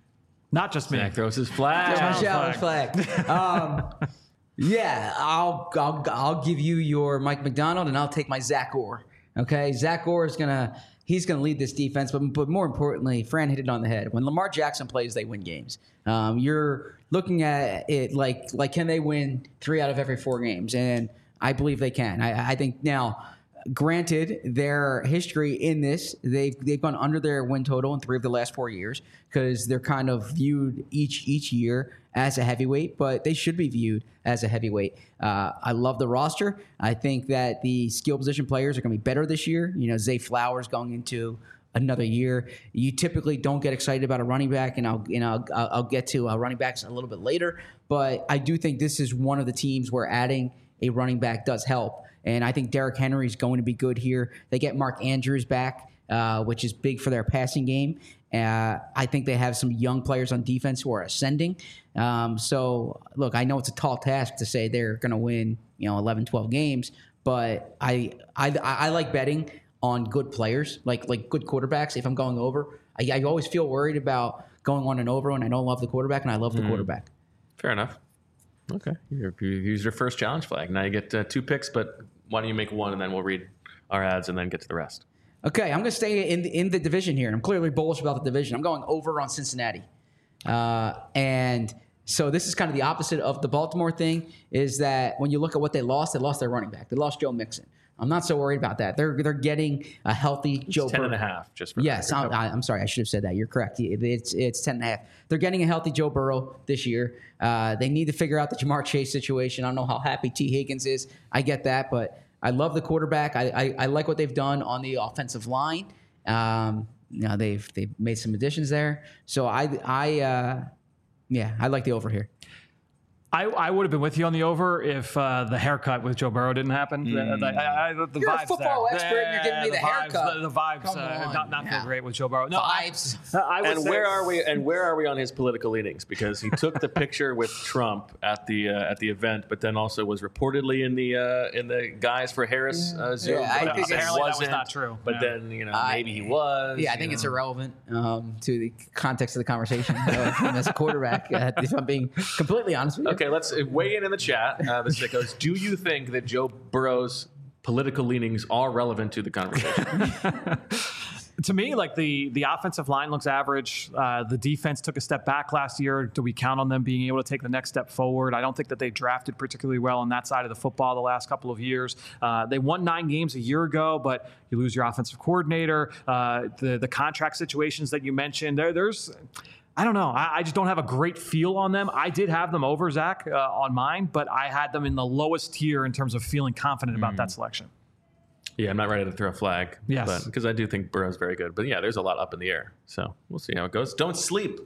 Not just me. Zach throws his flag. My challenge flag. Um, yeah, I'll, I'll I'll give you your Mike McDonald, and I'll take my Zach Orr. Okay, Zach Orr is gonna he's gonna lead this defense, but but more importantly, Fran hit it on the head. When Lamar Jackson plays, they win games. Um, you're looking at it like like can they win three out of every four games? And I believe they can. I, I think now. Granted, their history in this, they've they've gone under their win total in three of the last four years because they're kind of viewed each each year as a heavyweight, but they should be viewed as a heavyweight. Uh, I love the roster. I think that the skill position players are going to be better this year. You know, Zay Flowers going into another year. You typically don't get excited about a running back, and I'll you know I'll, I'll get to uh, running backs a little bit later. But I do think this is one of the teams where adding a running back does help. And I think Derrick Henry is going to be good here. They get Mark Andrews back, uh, which is big for their passing game. Uh, I think they have some young players on defense who are ascending. Um, so, look, I know it's a tall task to say they're going to win, you know, eleven, twelve games, but I, I I like betting on good players, like like good quarterbacks. If I'm going over, I, I always feel worried about going on and over when I don't love the quarterback, and I love the mm. quarterback. Fair enough. Okay, you used your first challenge flag. Now you get uh, two picks, but why don't you make one, and then we'll read our ads and then get to the rest. Okay, I'm going to stay in the, in the division here, and I'm clearly bullish about the division. I'm going over on Cincinnati. Uh, and so this is kind of the opposite of the Baltimore thing, is that when you look at what they lost, they lost their running back. They lost Joe Mixon. I'm not so worried about that. They're they're getting a healthy it's Joe ten Burrow. and a half, just for yes. I'm, I'm sorry, I should have said that. You're correct. It's it's ten and a half. They're getting a healthy Joe Burrow this year. Uh, they need to figure out the Jamar Chase situation. I don't know how happy T. Higgins is. I get that, but I love the quarterback. I I, I like what they've done on the offensive line. Um, you know, they've they've made some additions there. So I I uh, yeah, I like the over here. I, I would have been with you on the over if uh, the haircut with Joe Burrow didn't happen. Mm. The, I, I, the you're vibes a football there. expert, and you're giving me the, the haircut. Vibes, the, the vibes Come uh, on. not not yeah. feel great with Joe Burrow. No, vibes. I, I would and say, where are we? And where are we on his political leanings? Because he took the picture with Trump at the uh, at the event, but then also was reportedly in the uh, in the Guys for Harris uh, Zoom. Yeah, I but think apparently that was wasn't, not true. But Yeah. then you know I- maybe he was. Yeah, I think you it's know. irrelevant um, to the context of the conversation uh, him as a quarterback. Uh, if I'm being completely honest with you. Okay, let's uh, weigh in in the chat. Uh, this that goes. Do you think that Joe Burrow's political leanings are relevant to the conversation? To me, like the the offensive line looks average. Uh, the defense took a step back last year. Do we count on them being able to take the next step forward? I don't think that they drafted particularly well on that side of the football the last couple of years. Uh, they won nine games a year ago, but you lose your offensive coordinator. Uh, the the contract situations that you mentioned, there there's. I don't know. I, I just don't have a great feel on them. I did have them over, Zach, uh, on mine, but I had them in the lowest tier in terms of feeling confident about that selection. Yeah, I'm not ready to throw a flag. Yes. Because I do think Burrow's very good. But yeah, there's a lot up in the air. So we'll see how it goes. Don't sleep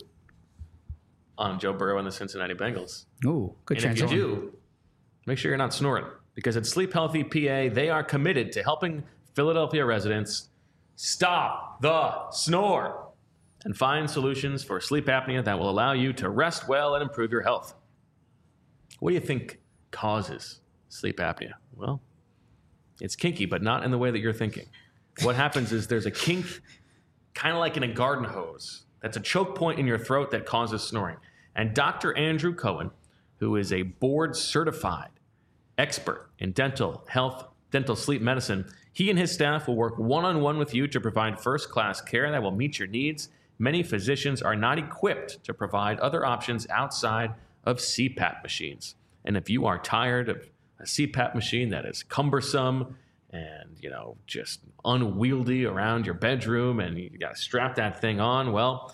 on Joe Burrow and the Cincinnati Bengals. Ooh, good And if you transition. do, make sure you're not snoring. Because at Sleep Healthy P A, they are committed to helping Philadelphia residents stop the snore and find solutions for sleep apnea that will allow you to rest well and improve your health. What do you think causes sleep apnea? Well, it's kinky, but not in the way that you're thinking. What happens is there's a kink, kind of like in a garden hose, that's a choke point in your throat that causes snoring. And Doctor Andrew Cohen, who is a board-certified expert in dental health, dental sleep medicine, he and his staff will work one-on-one with you to provide first-class care that will meet your needs. Many physicians are not equipped to provide other options outside of C PAP machines. And if you are tired of a C PAP machine that is cumbersome and, you know, just unwieldy around your bedroom and you got to strap that thing on, well,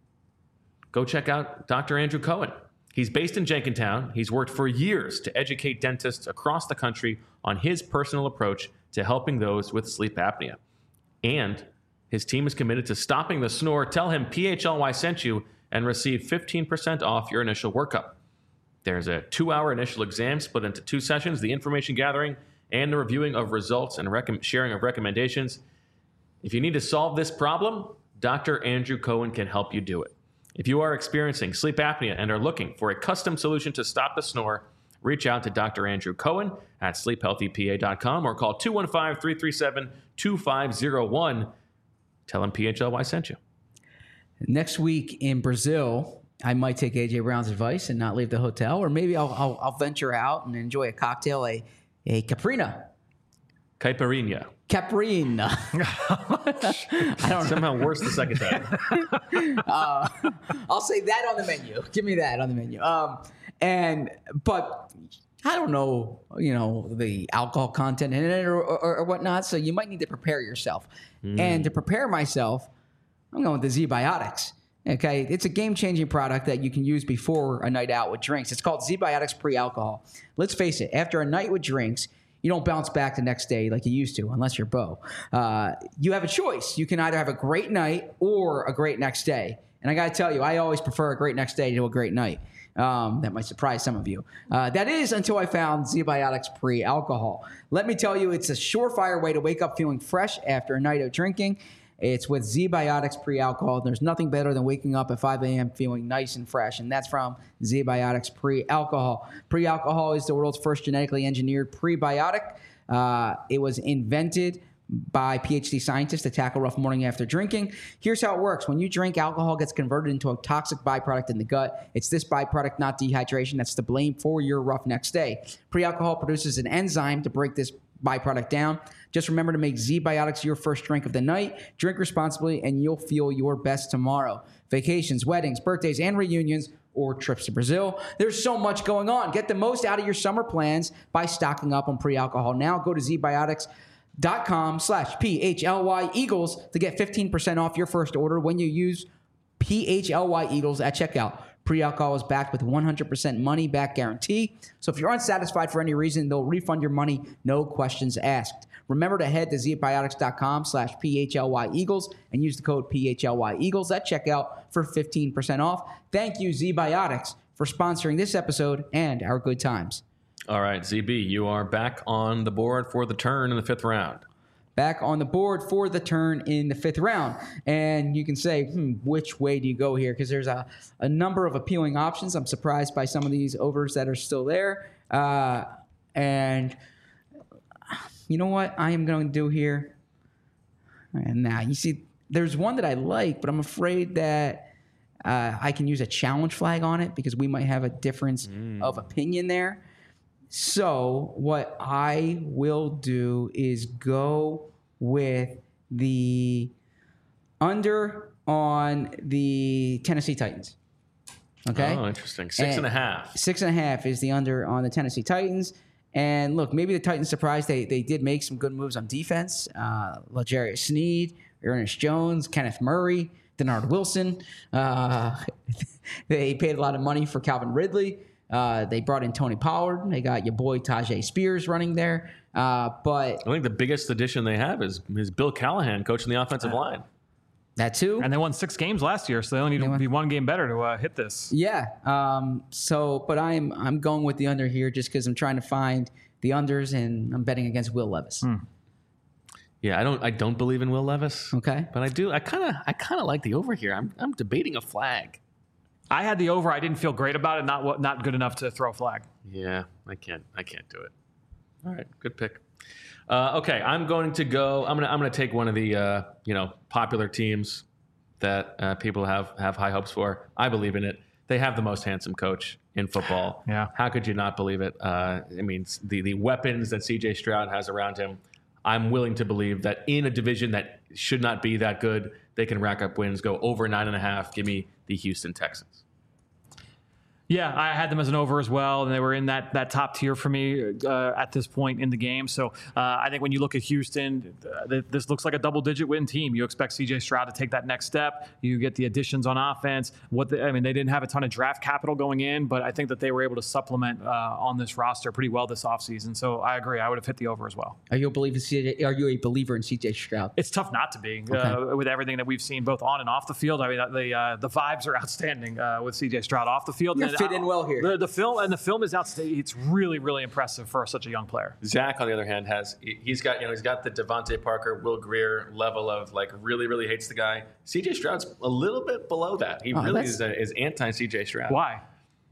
go check out Doctor Andrew Cohen. He's based in Jenkintown. He's worked for years to educate dentists across the country on his personal approach to helping those with sleep apnea. And his team is committed to stopping the snore. Tell him P H L Y sent you and receive fifteen percent off your initial workup. There's a two-hour initial exam split into two sessions, the information gathering and the reviewing of results and rec- sharing of recommendations. If you need to solve this problem, Doctor Andrew Cohen can help you do it. If you are experiencing sleep apnea and are looking for a custom solution to stop the snore, reach out to Doctor Andrew Cohen at sleep healthy p a dot com or call two one five, three three seven, two five zero one. Tell him P H L Y sent you. Next week in Brazil, I might take A J Brown's advice and not leave the hotel, or maybe I'll, I'll, I'll venture out and enjoy a cocktail, a, a Caprina. Caipirinha. Caprina. I don't know. Somehow worse the second time. uh, I'll say that on the menu. Give me that on the menu. Um, and but I don't know, you know, the alcohol content in it or, or, or whatnot. So you might need to prepare yourself. Mm. And to prepare myself, I'm going with the Z-Biotics. Okay, it's a game-changing product that you can use before a night out with drinks. It's called Z-Biotics Pre-Alcohol. Let's face it, after a night with drinks, you don't bounce back the next day like you used to, unless you're Bo. Uh, you have a choice. You can either have a great night or a great next day. And I got to tell you, I always prefer a great next day to a great night. Um, that might surprise some of you. Uh, that is until I found Z-Biotics Pre-Alcohol. Let me tell you, it's a surefire way to wake up feeling fresh after a night of drinking. It's with Z-Biotics Pre-Alcohol. There's nothing better than waking up at five a.m. feeling nice and fresh, and that's from Z-Biotics Pre-Alcohol. Pre-alcohol is the world's first genetically engineered prebiotic. Uh, it was invented by PhD scientists to tackle rough morning after drinking. Here's how it works. When you drink, alcohol gets converted into a toxic byproduct in the gut. It's this byproduct, not dehydration, that's to blame for your rough next day. Pre-alcohol produces an enzyme to break this byproduct down. Just remember to make Z-Biotics your first drink of the night. Drink responsibly, and you'll feel your best tomorrow. Vacations, weddings, birthdays, and reunions, or trips to Brazil. There's so much going on. Get the most out of your summer plans by stocking up on pre-alcohol now. Go to Z-Biotics.com slash P-H-L-Y Eagles to get fifteen percent off your first order when you use P H L Y Eagles at checkout. Pre-alcohol is backed with one hundred percent money-back guarantee. So if you're unsatisfied for any reason, they'll refund your money, no questions asked. Remember to head to Z-Biotics.com slash P-H-L-Y Eagles and use the code P H L Y Eagles at checkout for fifteen percent off. Thank you, Z-Biotics, for sponsoring this episode and our good times. All right, Z B, you are back on the board for the turn in the fifth round. Back on the board for the turn in the fifth round. And you can say, hmm, which way do you go here? Because there's a, a number of appealing options. I'm surprised by some of these overs that are still there. Uh, and you know what I am going to do here? And now, you see, there's one that I like, but I'm afraid that uh, I can use a challenge flag on it because we might have a difference mm. of opinion there. So what I will do is go with the under on the Tennessee Titans. Okay. Oh, interesting. Six and, and a half. Six and a half is the under on the Tennessee Titans. And look, maybe the Titans surprised. They they did make some good moves on defense. Uh, L'Jarius Sneed, Ernest Jones, Kenneth Murray, Denard Wilson. Uh, they paid a lot of money for Calvin Ridley. Uh, they brought in Tony Pollard. They got your boy Tajay Spears running there. Uh, but I think the biggest addition they have is, is Bill Callahan coaching the offensive uh, line. That too. And they won six games last year, so they only need to be one game better to uh, hit this. Yeah. Um, so, but I'm I'm going with the under here just because I'm trying to find the unders, and I'm betting against Will Levis. Hmm. Yeah, I don't I don't believe in Will Levis. Okay. But I do. I kind of I kind of like the over here. I'm I'm debating a flag. I had the over. I didn't feel great about it. Not not good enough to throw a flag. Yeah, I can't. I can't do it. All right, good pick. Uh, okay, I'm going to go. I'm gonna. I'm gonna take one of the uh, you know popular teams that uh, people have have high hopes for. I believe in it. They have the most handsome coach in football. Yeah. How could you not believe it? Uh, I mean, the the weapons that C J Stroud has around him. I'm willing to believe that in a division that should not be that good, they can rack up wins, go over nine and a half. Give me the Houston Texans. Yeah, I had them as an over as well, and they were in that that top tier for me uh, at this point in the game. So uh, I think when you look at Houston, uh, th- this looks like a double-digit win team. You expect C J Stroud to take that next step. You get the additions on offense. What the, I mean, they didn't have a ton of draft capital going in, but I think that they were able to supplement uh, on this roster pretty well this offseason. So I agree. I would have hit the over as well. Are you a believer in C J? Are you a believer in C J Stroud? It's tough not to be Okay. uh, with everything that we've seen both on and off the field. I mean, the uh, the vibes are outstanding uh, with C J Stroud off the field. You're And, fit in well here. The, the film and the film is outstanding. It's really, really impressive for such a young player. Zach, on the other hand, has he's got you know he's got the Devontae Parker, Will Greer level of like really, really hates the guy. C J Stroud's a little bit below that. He Oh, really that's- is, a, is anti C J Stroud. Why?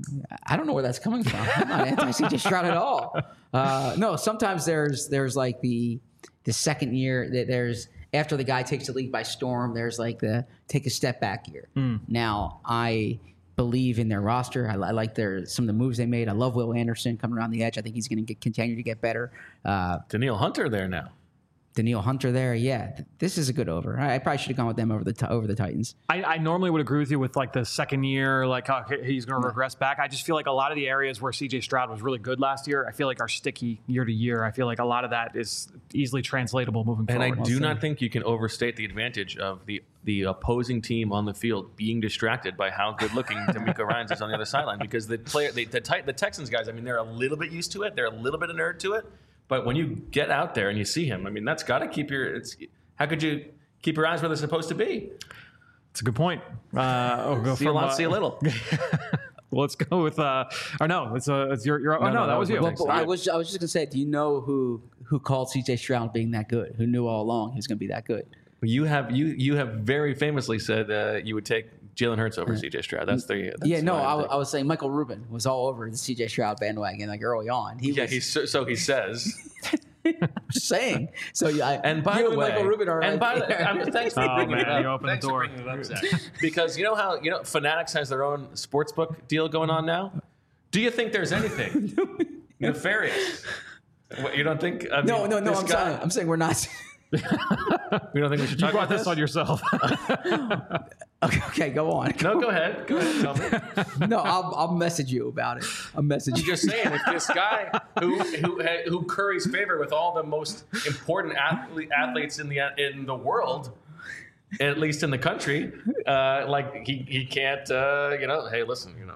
I don't know where that's coming from. I'm not anti-C J Stroud at all. Uh, no, sometimes there's there's like the the second year that there's after the guy takes the league by storm. There's like the take a step back year. Mm. Now I believe in their roster. I, I like their some of the moves they made. I love Will Anderson coming around the edge. I think he's going to continue to get better. Uh, Daniil Hunter there now. Daniil Hunter there. Yeah, th- this is a good over. I, I probably should have gone with them over the t- over the Titans. I, I normally would agree with you with like the second year, like uh, he's going to regress back. I just feel like a lot of the areas where C J Stroud was really good last year, I feel like are sticky year to year. I feel like a lot of that is easily translatable moving And forward. I do not think you can overstate the advantage of the the opposing team on the field being distracted by how good looking D'Amico Ryans is on the other sideline, because the player, the the, tit- the Texans guys, I mean, they're a little bit used to it. They're a little bit inured to it. But when you get out there and you see him, I mean, that's got to keep your. It's how could you keep your eyes where they're supposed to be? It's a good point. Uh, oh, go See a from, lot, uh, see a little. Well, let's go with. Uh, or no, it's uh, it's your. your oh No, no, no, that, that was was you. my Well, but I was I was just gonna say, do you know who who called C J Stroud being that good? Who knew all along he was gonna be that good? You have you you have very famously said uh, you would take Jalen Hurts over C J Stroud. That's the that's Yeah, no, what I, I'm I thinking. was saying Michael Rubin was all over the C J Stroud bandwagon like early on. He yeah, was he's so, so he says. just saying. So yeah, I, And by you the and way, Michael Rubin are and like, by the I'm, thanks for Oh, bringing man, it up. you opened the Thanks for door. bringing it up, Zach. Because you know how you know Fanatics has their own sportsbook deal going on now. Do you think there's anything nefarious? What, you don't think? I mean, no, no, no. this I'm guy, saying, I'm saying we're not. We don't think we should You talk brought about this on yourself. Okay, okay, go on. No, go ahead. Go ahead. Tell me. No, I'll, I'll message you about it. I'll message I'm you. just saying, if this guy who who who curries favor with all the most important athlete, athletes in the in the world, at least in the country, uh, like he he can't, uh, you know, hey, listen, you know,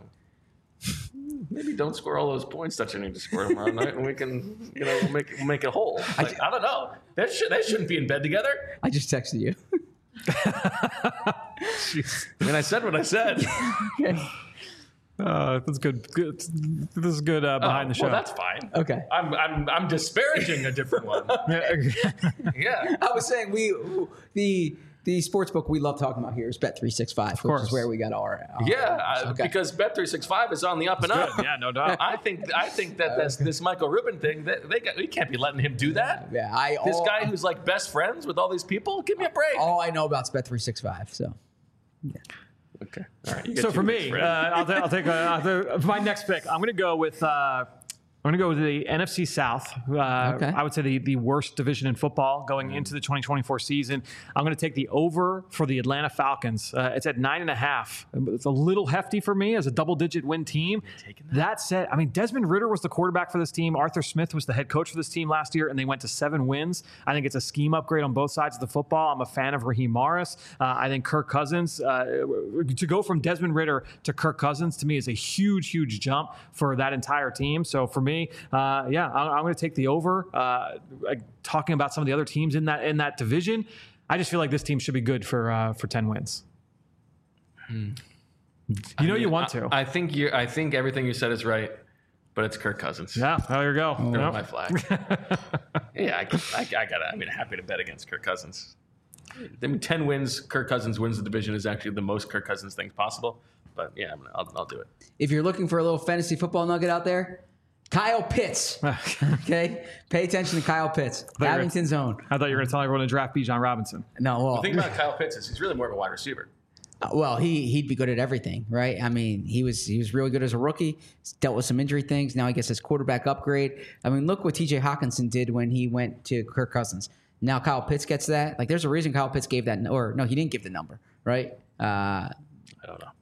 maybe don't score all those points that you need to score tomorrow night, and we can, you know, we'll make we'll make it whole. Like, I, don't know. That should they shouldn't be in bed together. I just texted you. I mean, I said what I said. Uh, that's good. good. This is good uh, behind Oh, the show. Well, that's fine. Okay. I'm I'm I'm disparaging a different one. Yeah. I was saying we the the sports book we love talking about here is Bet three sixty-five, which course. is where we got our, our Yeah, uh, okay. because Bet three sixty-five is on the up and up. yeah, no doubt. I think I think that this, this Michael Rubin thing, that they got, we can't be letting him do that. yeah. I This all, guy who's like best friends with all these people, give me a break. all I know about is Bet three sixty-five. So Okay, all right. you get So your for best me, uh, friend. I'll, ta- I'll take uh, I'll ta- my next pick. I'm going to go with uh, I'm going to go with the N F C South. Uh, Okay. I would say the, the worst division in football going into the twenty twenty-four season. I'm going to take the over for the Atlanta Falcons. Uh, it's at nine and a half. It's a little hefty for me as a double-digit win team. That said, I mean, Desmond Ridder was the quarterback for this team. Arthur Smith was the head coach for this team last year, and they went to seven wins. I think it's a scheme upgrade on both sides of the football. I'm a fan of Raheem Morris. Uh, I think Kirk Cousins, uh, to go from Desmond Ridder to Kirk Cousins, to me, is a huge, huge jump for that entire team. So for me, uh, yeah, I'm, I'm going to take the over. Uh, like, talking about some of the other teams in that in that division, I just feel like this team should be good for uh, for ten wins. You know, you want to. I, I think you. I think everything you said is right, but it's Kirk Cousins. yeah, there you go. Throw Yep. my flag. yeah, I, I, I got. I mean, happy to bet against Kirk Cousins. I mean, ten wins. Kirk Cousins wins the division is actually the most Kirk Cousins things possible. But yeah, I'm gonna, I'll, I'll do it. if you're looking for a little fantasy football nugget out there, Kyle Pitts. Okay, pay attention to Kyle Pitts, you were- Abington's own. I thought you were going to tell everyone to draft Bijan Robinson. No, well, The thing about Kyle Pitts is he's really more of a wide receiver. Uh, Well, he he'd be good at everything, right? I mean, he was he was really good as a rookie. He's dealt with some injury things. Now he gets his quarterback upgrade. I mean, look what T J Hawkinson did when he went to Kirk Cousins. Now Kyle Pitts gets that. Like, there's a reason Kyle Pitts gave that, or no, he didn't give the number, right? Uh, I don't know.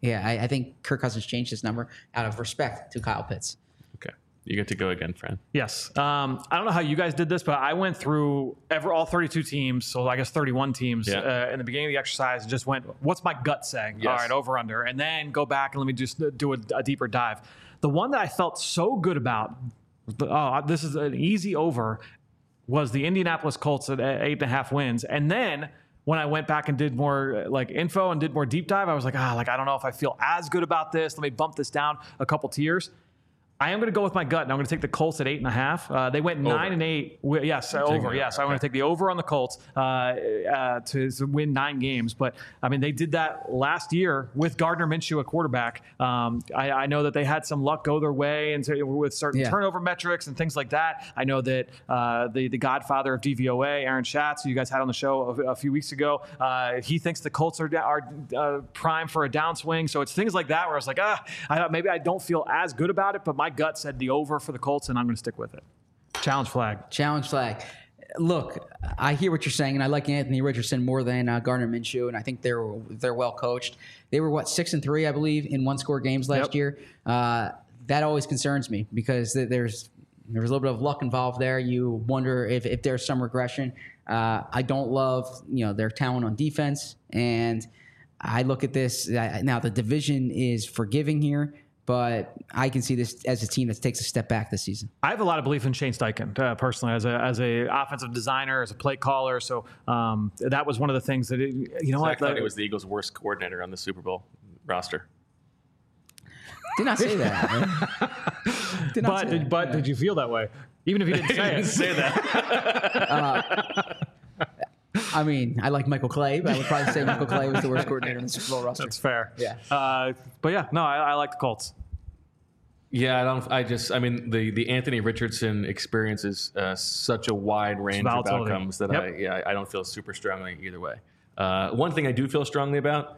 Yeah, I, I think Kirk Cousins changed his number out of respect to Kyle Pitts. Okay. You get to go again, Fran. Yes. Um, I don't know how you guys did this, but I went through ever all thirty-two teams, so I guess thirty-one teams Yeah. uh, in the beginning of the exercise, and just went, what's my gut saying? Yes. All right, over, under. And then go back and let me just do a, a deeper dive. The one that I felt so good about, oh, this is an easy over, was the Indianapolis Colts at eight and a half wins. And then when I went back and did more like info and did more deep dive, I was like, ah, like, I don't know if I feel as good about this. Let me bump this down a couple tiers. I am going to go with my gut, and I'm going to take the Colts at eight and a half. Uh, they went Over. nine and eight. Wi- Yes, uh, over. over, Yes, I'm okay. going to take the over on the Colts uh, uh, to, to win nine games. But I mean, they did that last year with Gardner Minshew at quarterback. Um, I, I know that they had some luck go their way, and so with certain Yeah. turnover metrics and things like that. I know that uh, the the Godfather of D V O A, Aaron Schatz, who you guys had on the show a, a few weeks ago, uh, he thinks the Colts are are uh, prime for a downswing. So it's things like that where I was like, ah, I, maybe I don't feel as good about it, but my gut said the over for the Colts, and I'm going to stick with it. Challenge flag. Challenge flag. Look, I hear what you're saying, and I like Anthony Richardson more than uh, Gardner Minshew, and I think they're they're well coached. They were what six and three, I believe, in one score games last Yep. year. Uh, that always concerns me because th- there's there's a little bit of luck involved there. You wonder if if there's some regression. Uh, I don't love you know their talent on defense, and I look at this uh, now. The division is forgiving here. But I can see this as a team that takes a step back this season. I have a lot of belief in Shane Steichen, uh, personally, as a as a offensive designer, as a play caller. So um, that was one of the things that, it, you know Zach what? thought the- he was the Eagles' worst coordinator on the Super Bowl roster. Did not say that. man. Did not but say did, that. but Yeah. did you feel that way? Even if you didn't say it. say that. I mean, I like Michael Clay, but I would probably say Michael Clay was the worst coordinator in the Super Bowl roster. That's fair. Yeah. Uh, but yeah, no, I, I like the Colts. Yeah, I don't. I just. I mean, the the Anthony Richardson experience is uh, such a wide range of volatility. outcomes that Yep. I yeah I don't feel super strongly either way. Uh, one thing I do feel strongly about: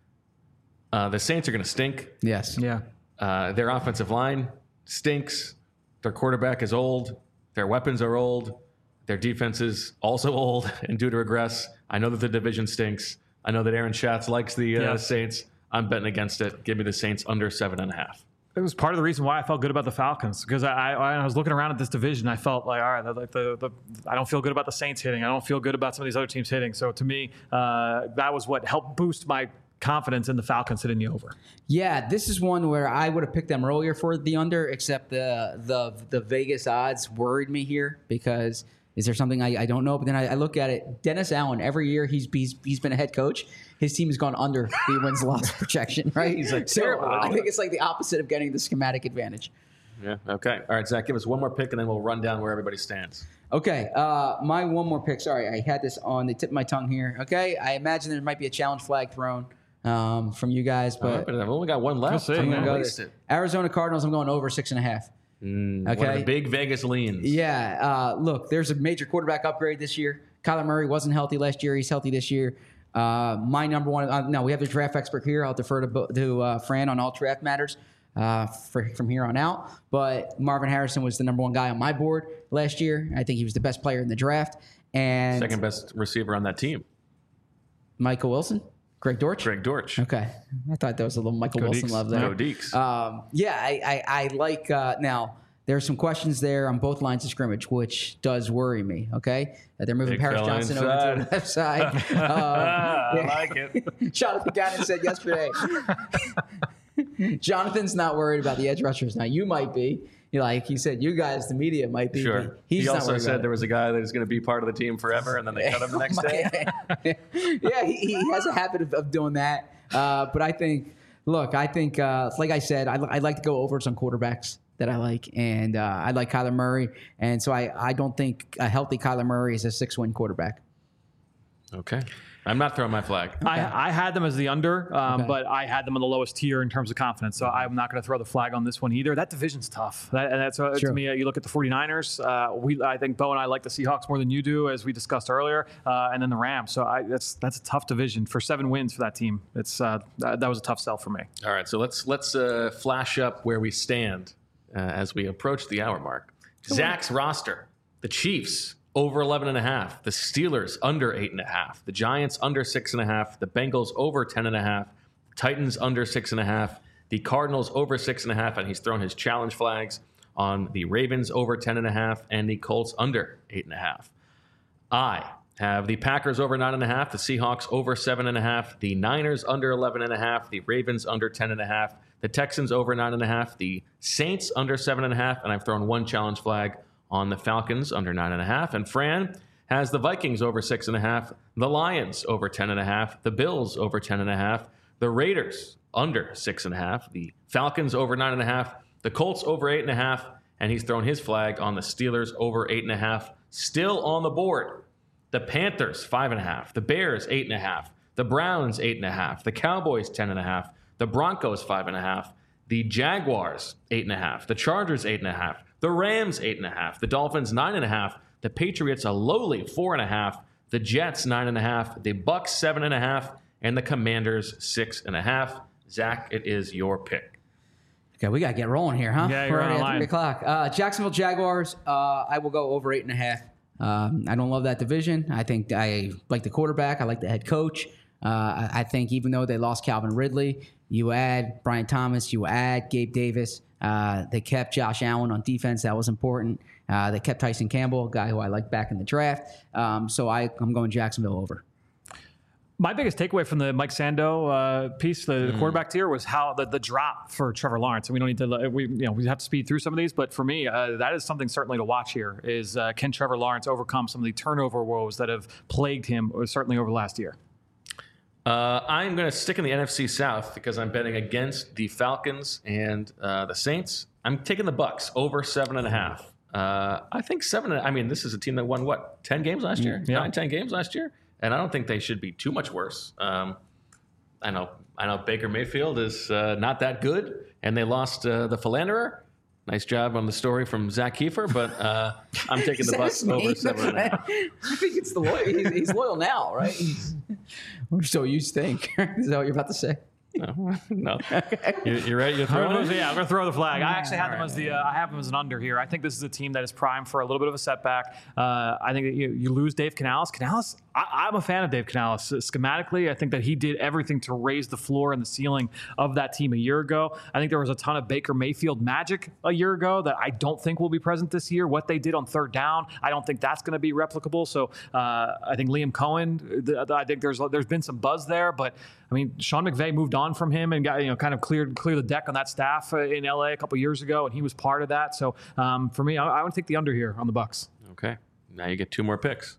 uh, the Saints are going to stink. Yes. Yeah. Uh, their offensive line stinks. Their quarterback is old. Their weapons are old. Their defense is also old and due to regress. I know that the division stinks. I know that Aaron Schatz likes the uh, Yeah. Saints. I'm betting against it. Give me the Saints under seven and a half. It was part of the reason why I felt good about the Falcons, because I, I, I was looking around at this division. I felt like, all right, like the, the, I don't feel good about the Saints hitting. I don't feel good about some of these other teams hitting. So to me, uh, that was what helped boost my confidence in the Falcons hitting the over. Yeah, this is one where I would have picked them earlier for the under, except the the the Vegas odds worried me here because is there something I, I don't know? But then I, I look at it. Dennis Allen, every year he's, he's he's been a head coach, his team has gone under the wins loss projection, right? He's like, so terrible. I think it's like the opposite of getting the schematic advantage. Yeah. Okay. All right, Zach, give us one more pick, and then we'll run down where everybody stands. Okay, uh, my one more pick. Sorry, I had this on the tip of my tongue here. Okay, I imagine there might be a challenge flag thrown um, from you guys, All right, but but I've only got one left. We'll see, I'm man. gonna go waste there. it. Arizona Cardinals. I'm going over six and a half. Mm, One of Okay. the big Vegas leans. Yeah, uh, look, there's a major quarterback upgrade this year. Kyler Murray wasn't healthy last year. He's healthy this year. Uh, my number one. Uh, no, we have the draft expert here. I'll defer to, Bo- to uh, Fran on all draft matters uh, for, from here on out. But Marvin Harrison was the number one guy on my board last year. I think he was the best player in the draft. And Second best receiver on that team, Michael Wilson, Greg Dortch. Greg Dortch. Okay, I thought there was a little Michael Go Wilson Deeks. love there. Go Deeks. Um, yeah, I, I, I like uh, now. There are some questions there on both lines of scrimmage, which does worry me. Okay, that they're moving Big Paris fella Johnson inside. over to the left side. Um, I like it. Jonathan Gannon said yesterday. Jonathan's not worried about the edge rushers. Now you might be. You know, like he said, you guys, the media might be. Sure. But he's he not also worried said about there it. was a guy that is going to be part of the team forever, and then they cut him the next day. Yeah, he, he has a habit of, of doing that. Uh, but I think, look, I think, uh, like I said, I, I like to go over some quarterbacks that I like, and uh, I like Kyler Murray, and so I, I don't think a healthy Kyler Murray is a six-win quarterback. Okay. I'm not throwing my flag. I, I had them as the under, um, Okay. but I had them on the lowest tier in terms of confidence. So I'm not going to throw the flag on this one either. That division's tough. That, and that's uh, Sure. to me. Uh, you look at the 49ers. Uh, we, I think Bo and I like the Seahawks more than you do, as we discussed earlier, uh, and then the Rams. So I, that's that's a tough division for seven wins for that team. It's uh, that, that was a tough sell for me. All right, so let's let's uh, flash up where we stand uh, as we approach the hour mark. Zach's roster: the Chiefs over eleven and a half, the Steelers under eight and a half, the Giants under six and a half, the Bengals over ten and a half, Titans under six and a half. The Cardinals over six and a half, and he's thrown his challenge flags on the Ravens over ten and a half and the Colts under eight and a half. I have the Packers over nine and a half, the Seahawks over seven and a half, the Niners under eleven and a half, the Ravens under ten and a half, the Texans over nine and a half, the Saints under seven and a half, and I've thrown one challenge flag on the Falcons under nine and a half. And Fran has the Vikings over six and a half, the Lions over ten and a half, the Bills over ten and a half, the Raiders under six and a half, the Falcons over nine and a half, the Colts over eight and a half, and he's thrown his flag on the Steelers over eight and a half. Still on the board, the Panthers five and a half, the Bears eight and a half, the Browns eight and a half, the Cowboys ten and a half, the Broncos five and a half, the Jaguars eight and a half, the Chargers eight and a half, the Rams eight and a half, the Dolphins nine and a half, the Patriots a lowly four and a half, the Jets nine and a half, the Bucks seven and a half, and the Commanders six and a half. Zach, it is your pick. Okay, we got to get rolling here, huh? Yeah, you're We're already on at three o'clock. Uh, Jacksonville Jaguars, uh, I will go over eight and a half. Um, I don't love that division. I think I like the quarterback. I like the head coach. Uh, I, I think even though they lost Calvin Ridley, you add Brian Thomas, you add Gabe Davis. Uh, they kept Josh Allen on defense. That was important. Uh, they kept Tyson Campbell, a guy who I liked back in the draft. Um, so I, I'm going Jacksonville over. My biggest takeaway from the Mike Sando uh, piece, the, mm. the quarterback tier, was how the, the drop for Trevor Lawrence. And we don't need to, we you know we have to speed through some of these, but for me, uh, that is something certainly to watch here. Is uh, can Trevor Lawrence overcome some of the turnover woes that have plagued him, certainly over the last year? Uh, I'm going to stick in the N F C South because I'm betting against the Falcons and uh, the Saints. I'm taking the Bucks over seven and a half. Uh, I think seven. I mean, this is a team that won what ten games last year, yeah. nine, ten games last year. And I don't think they should be too much worse. Um, I know I know Baker Mayfield is uh, not that good, and they lost uh, the philanderer. Nice job on the story from Zach Kiefer, but uh, I'm taking the Bucks over seven and a half. I think it's the loyal. He's, he's loyal now, right? He's, or so you think. Is that what you're about to say? No, no. You, you're right. You're throwing it? Yeah, I'm going to throw the flag. I actually have them as the. Uh, I have them as an under here. I think this is a team that is primed for a little bit of a setback. Uh, I think that you, you lose Dave Canales. Canales, I, I'm a fan of Dave Canales. Uh, schematically, I think that he did everything to raise the floor and the ceiling of that team a year ago. I think there was a ton of Baker Mayfield magic a year ago that I don't think will be present this year. What they did on third down, I don't think that's going to be replicable. So uh, I think Liam Cohen. The, the, I think there's there's been some buzz there, but I mean, Sean McVay moved on from him and got, you know, kind of cleared clear the deck on that staff uh, in L A a couple years ago, and he was part of that. So um, for me, I, I would take the under here on the Bucks. Okay, now you get two more picks.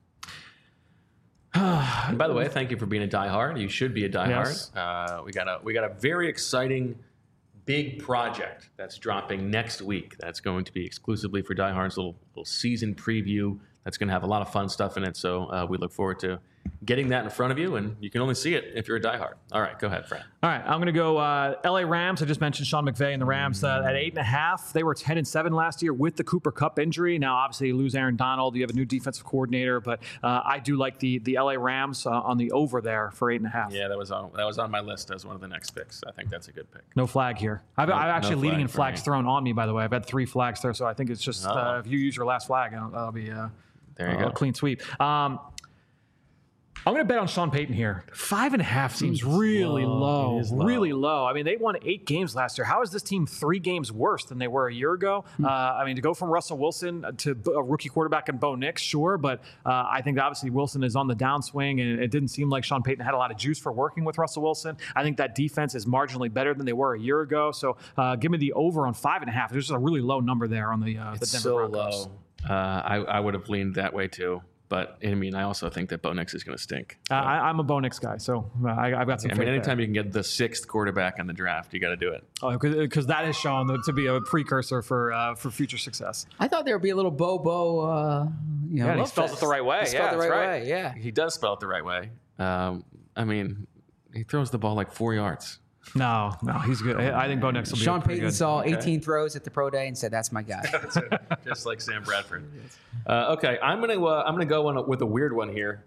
And by the way, thank you for being a diehard. You should be a diehard. Yes. Uh, we got a we got a very exciting big project that's dropping next week. That's going to be exclusively for diehards. Little little season preview. That's going to have a lot of fun stuff in it. So uh, we look forward to getting that in front of you, and you can only see it if you're a diehard. All right, go ahead, Fran. All right, I'm going to go uh, L A Rams. I just mentioned Sean McVay and the Rams uh, at eight and a half. They were ten and seven last year with the Cooper Kupp injury. Now, obviously, you lose Aaron Donald. You have a new defensive coordinator, but uh, I do like the the L A Rams uh, on the over there for eight and a half. Yeah, that was on that was on my list as one of the next picks. I think that's a good pick. No flag here. I've, No- I'm actually no leading flag in for flags me. thrown on me. By the way, I've had three flags there, so I think it's just Oh. uh, if you use your last flag, that'll, that'll be uh, There you a go. clean sweep. Um, I'm going to bet on Sean Payton here. Five and a half seems really low. low, It is low. really low. I mean, they won eight games last year. How is this team three games worse than they were a year ago? Uh, I mean, to go from Russell Wilson to a rookie quarterback and Bo Nix, sure, but uh, I think obviously Wilson is on the downswing, and it didn't seem like Sean Payton had a lot of juice for working with Russell Wilson. I think that defense is marginally better than they were a year ago. So uh, give me the over on five and a half. There's just a really low number there on the, uh, the It's Denver so Broncos. low. Uh, I, I would have leaned that way too. But I mean, I also think that Bo Nix is going to stink. Uh, I, I'm a Bo Nix guy, so uh, I, I've got some I faith mean, there. anytime you can get the sixth quarterback in the draft, you got to do it. Oh, because that is shown to be a precursor for uh, for future success. I thought there would be a little Bobo, uh, you know. Yeah, and he love spells fest. it the right way. He spelled Yeah, it the that's right right. way. Yeah. He does spell it the right way. Um, I mean, he throws the ball like four yards. No, no, he's good. I I think Bo Nix will be Sean pretty Payton good. saw eighteen throws at the pro day and said, "That's my guy." Just like Sam Bradford. Uh, okay, I'm gonna uh, I'm gonna go on a, with a weird one here,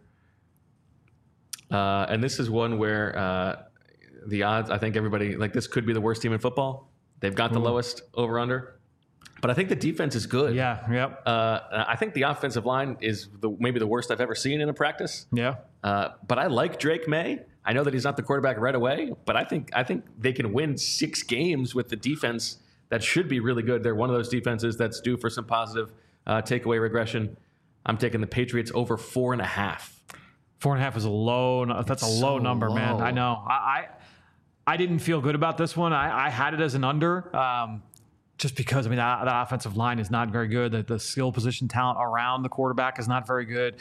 uh, and this is one where uh, the odds. I think everybody like this could be the worst team in football. They've got the lowest over under. But I think the defense is good. Yeah, yep. Uh, I think the offensive line is the, maybe the worst I've ever seen in a practice. Yeah. Uh, but I like Drake May. I know that he's not the quarterback right away, but I think I think they can win six games with the defense that should be really good. They're one of those defenses that's due for some positive uh, takeaway regression. I'm taking the Patriots over four and a half. Four and a half is a low. That's It's a low so number, man. low. I know. I, I I didn't feel good about this one. I, I had it as an under. Um, Just because, I mean, that, that offensive line is not very good. The, the skill position talent around the quarterback is not very good.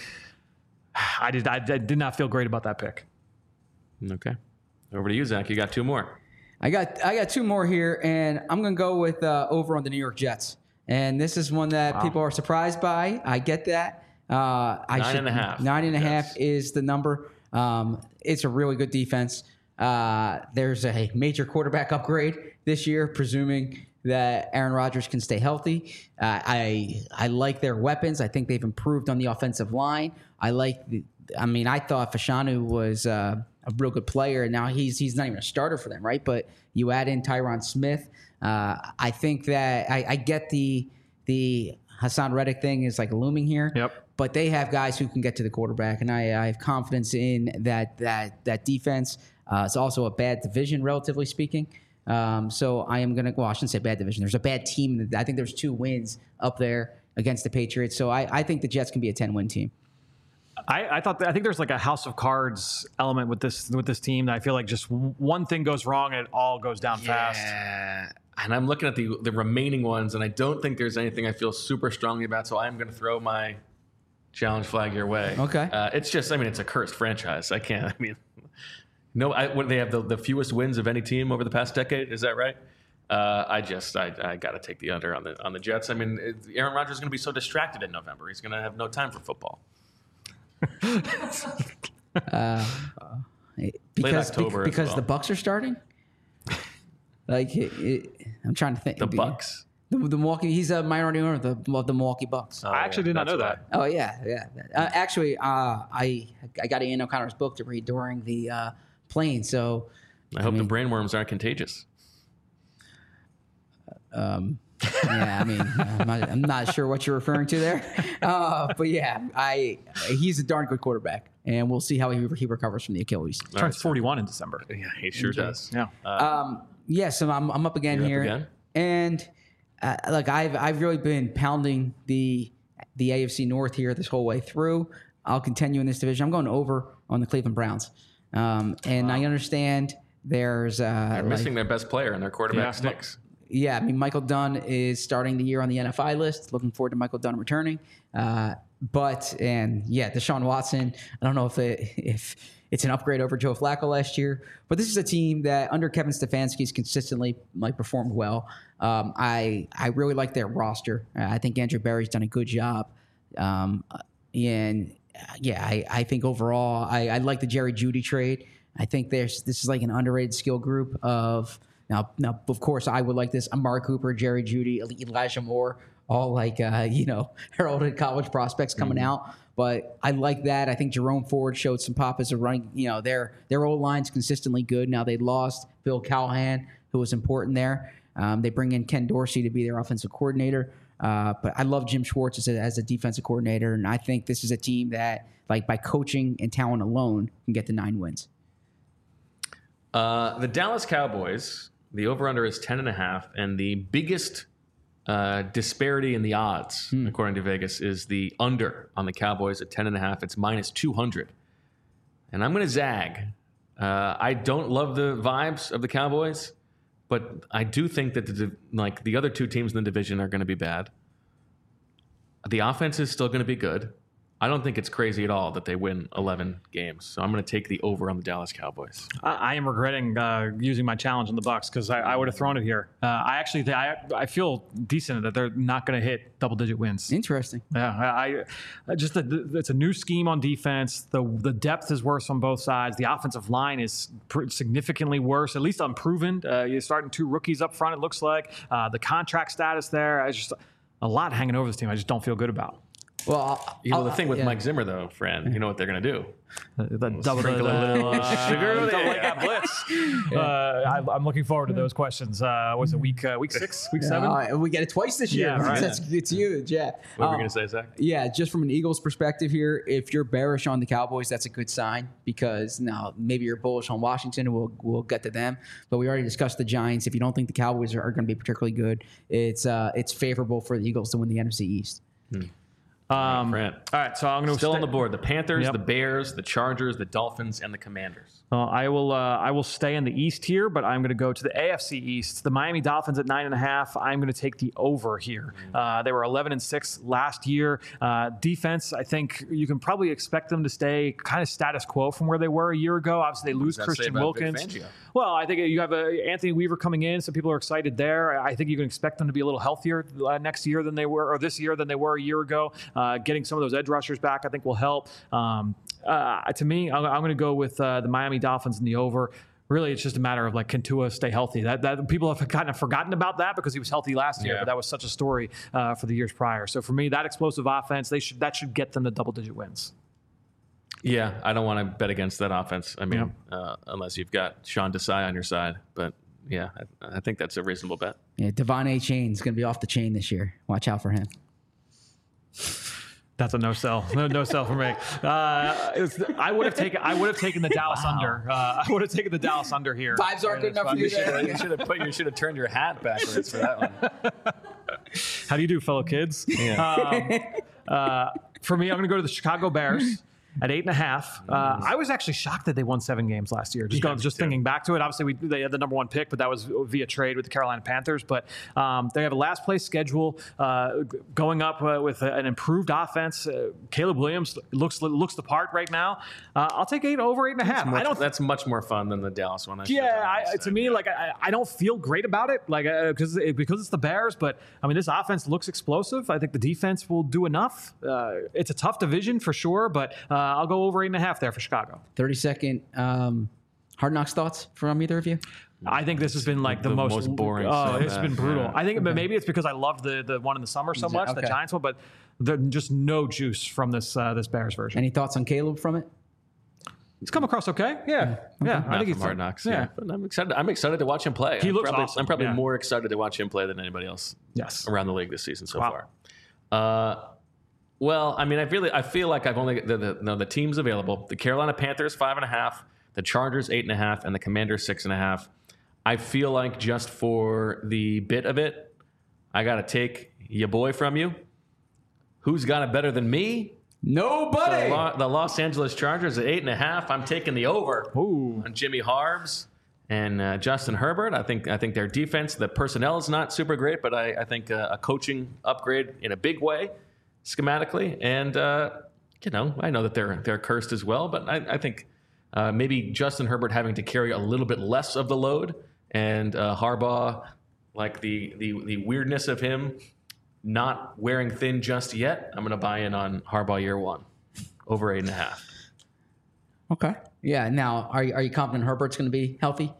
I did I, I did not feel great about that pick. Okay. Over to you, Zach. You got two more. I got I got two more here, and I'm going to go with uh, over on the New York Jets. And this is one that Wow. people are surprised by. I get that. Uh, I Nine should, and a half. Nine and a half Yes. is the number. Um, it's a really good defense. Uh, there's a major quarterback upgrade this year, presuming that Aaron Rodgers can stay healthy. Uh, I I like their weapons. I think they've improved on the offensive line. I like. The, I mean, I thought Fashanu was uh, a real good player, and now he's he's not even a starter for them, right? But you add in Tyron Smith. Uh, I think that I, I get the the Hassan Reddick thing is like looming here. Yep. But they have guys who can get to the quarterback, and I, I have confidence in that that that defense. Uh, it's also a bad division, relatively speaking. Um, so I am going to, well, I shouldn't say bad division. There's a bad team. I think there's two wins up there against the Patriots. So I, I think the Jets can be a ten-win team. I, I thought that, I think there's like a house of cards element with this with this team that I feel like just one thing goes wrong and it all goes down fast. Yeah. And I'm looking at the the remaining ones, and I don't think there's anything I feel super strongly about. So I'm going to throw my challenge flag your way. Okay. Uh, it's just, I mean, it's a cursed franchise. I can't. I mean, no. I, what, they have the, the fewest wins of any team over the past decade. Is that right? Uh, I just, I, I got to take the under on the on the Jets. I mean, it, Aaron Rodgers is going to be so distracted in November. He's going to have no time for football. Because, October as because well. the Bucks are starting? Like, it, it, I'm trying to think. The Bucks. The, the Milwaukee, he's a minority owner of the, of the Milwaukee Bucks. Oh, I actually yeah, did not that's know why. that. Oh yeah, yeah. Uh, actually, uh, I I got Ian O'Connor's book to read during the uh, plane. So I hope mean- the brainworms aren't contagious. um, yeah, I mean, I'm not, I'm not sure what you're referring to there, uh, but yeah, I he's a darn good quarterback, and we'll see how he he recovers from the Achilles. Turns forty-one in December. Yeah, he sure does. Yeah. Um, yeah, so I'm I'm up again You're up here, again? and uh, look, I've I've really been pounding the the A F C North here this whole way through. I'll continue in this division. I'm going over on the Cleveland Browns, um, and I understand there's uh, They're like- missing their best player, and their quarterback Yeah. stinks. yeah, I mean, Michael Dunn is starting the year on the N F I list. Looking forward to Michael Dunn returning. Uh, but, and yeah, Deshaun Watson, I don't know if it, if it's an upgrade over Joe Flacco last year, but this is a team that under Kevin Stefanski's consistently like performed well. Um, I, I really like their roster. Uh, I think Andrew Berry's done a good job. Um, and uh, yeah, I, I think overall, I, I like the Jerry Jeudy trade. I think there's, this is like an underrated skill group of, Now, now, of course, I would like this. Amari Cooper, Jerry Jeudy, Elijah Moore, all like, uh, you know, heralded college prospects coming out. But I like that. I think Jerome Ford showed some pop as a running, you know, their their old line's consistently good. Now they lost Bill Callahan, who was important there. Um, they bring in Ken Dorsey to be their offensive coordinator. Uh, but I love Jim Schwartz as a, as a defensive coordinator. And I think this is a team that, like, by coaching and talent alone, can get to nine wins. Uh, the Dallas Cowboys, the over-under is ten and a half, and the biggest uh, disparity in the odds, according to Vegas, is the under on the Cowboys at ten and a half. It's minus two hundred. And I'm going to zag. Uh, I don't love the vibes of the Cowboys, but I do think that the, like the other two teams in the division are going to be bad. The offense is still going to be good. I don't think it's crazy at all that they win eleven games. So I'm going to take the over on the Dallas Cowboys. I, I am regretting uh, using my challenge on the Bucks because I, I would have thrown it here. Uh, I actually th- I, I feel decent that they're not going to hit double digit wins. Interesting. Yeah, I, I just the, the, it's a new scheme on defense. The the depth is worse on both sides. The offensive line is pr- significantly worse, at least unproven. Uh, you're starting two rookies up front. It looks like uh, the contract status there. I just a lot hanging over this team. I just don't feel good about. Well, You know, the I'll- thing with yeah. Mike Zimmer, though, Fran, you know what they're going to do. The double Sprinkle the, a little uh, sugar double there. like blitz. Uh, I, I'm looking forward to those questions. Uh, was it week uh, week six, week seven? Uh, we get it twice this year. Yeah, right. That's, it's huge. Yeah. What were Um, we going to say, Zach? Yeah, just from an Eagles perspective here, if you're bearish on the Cowboys, that's a good sign because now maybe you're bullish on Washington, and we'll we'll get to them. But we already discussed the Giants. If you don't think the Cowboys are, are going to be particularly good, it's uh, it's favorable for the Eagles to win the N F C East. Um, Fran. all right, so I'm going to Still on the board. The Panthers, Yep. the Bears, the Chargers, the Dolphins, and the Commanders. Uh, I will. Uh, I will stay in the East here, but I'm going to go to the A F C East. The Miami Dolphins at nine and a half. I'm going to take the over here. Uh, they were eleven and six last year. Uh, defense, I think you can probably expect them to stay kind of status quo from where they were a year ago. Obviously, they lose does that say Christian about Vic Wilkins. Fangio? Well, I think you have uh Anthony Weaver coming in, so people are excited there. I think you can expect them to be a little healthier uh, next year than they were, or this year than they were a year ago. Uh, getting some of those edge rushers back, I think, will help. Um, uh, to me, I'm, I'm going to go with uh, the Miami Dolphins in the over. Really, it's just a matter of like, can Tua stay healthy? That, that people have kind of forgotten about that because he was healthy last year, Yeah. but that was such a story uh, for the years prior. So for me, that explosive offense, they should that should get them to double-digit wins. Yeah, I don't want to bet against that offense. I mean, uh, unless you've got Sean Desai on your side. But yeah, I, I think that's a reasonable bet. Yeah, Devon A. Chain's going to be off the chain this year. Watch out for him. That's a no sell. No, no sell for me. Uh, it's, I would have taken. I would have taken the Dallas under. Uh, I would have taken the Dallas under here. Vibes aren't good enough for you You should there. have, you should have put. You should have turned your hat backwards for that one. How do you do, fellow kids? Um, uh, for me, I'm going to go to the Chicago Bears at eight and a half. Uh, I was actually shocked that they won seven games last year. Just Yeah, going, just me too. thinking back to it. Obviously, we, they had the number one pick, but that was via trade with the Carolina Panthers. But um, they have a last place schedule uh, g- going up uh, with a- an improved offense. Uh, Caleb Williams looks looks the part right now. Uh, I'll take eight over eight and a half. Much- I don't. that's much more fun than the Dallas one. I should have Yeah, done I, instead. to me, like I, I don't feel great about it, like because it, because it's the Bears. But I mean, this offense looks explosive. I think the defense will do enough. Uh, it's a tough division for sure, but uh, I'll go over eight and a half there for Chicago. thirty second um, Hard Knocks thoughts from either of you? I think this has been like the, The most, most boring Oh, stuff, it's been yeah. brutal. Yeah. I think, but maybe it's because I loved the the one in the summer so much, the okay. Giants one. But there's just no juice from this uh, this Bears version. Any thoughts on Caleb from it? He's come across okay. Yeah, yeah. I Not think from he's Hard Knocks. Yeah. Yeah. But I'm excited. I'm excited to watch him play. He I'm looks probably, awesome, I'm probably yeah. more excited to watch him play than anybody else Yes. around the league this season so Wow. far. Uh, well, I mean, I really, I feel like I've only the the, no, the teams available: the Carolina Panthers five and a half, the Chargers eight and a half, and the Commanders six and a half. I feel like just for the bit of it, I got to take your boy from you. Who's got it better than me? The, Nobody. Lo- the Los Angeles Chargers at eight and a half. I'm taking the over Ooh. on Jimmy Harbs and uh, Justin Herbert. I think I think their defense, the personnel is not super great, but I, I think uh, a coaching upgrade in a big way, schematically. And uh, you know, I know that they're they're cursed as well, but I, I think uh, maybe Justin Herbert having to carry a little bit less of the load, and uh, Harbaugh, like the the the weirdness of him not wearing thin just yet. I'm going to buy in on Harbaugh year one, over eight and a half. Okay. Yeah. Now, are you, are you confident Herbert's going to be healthy?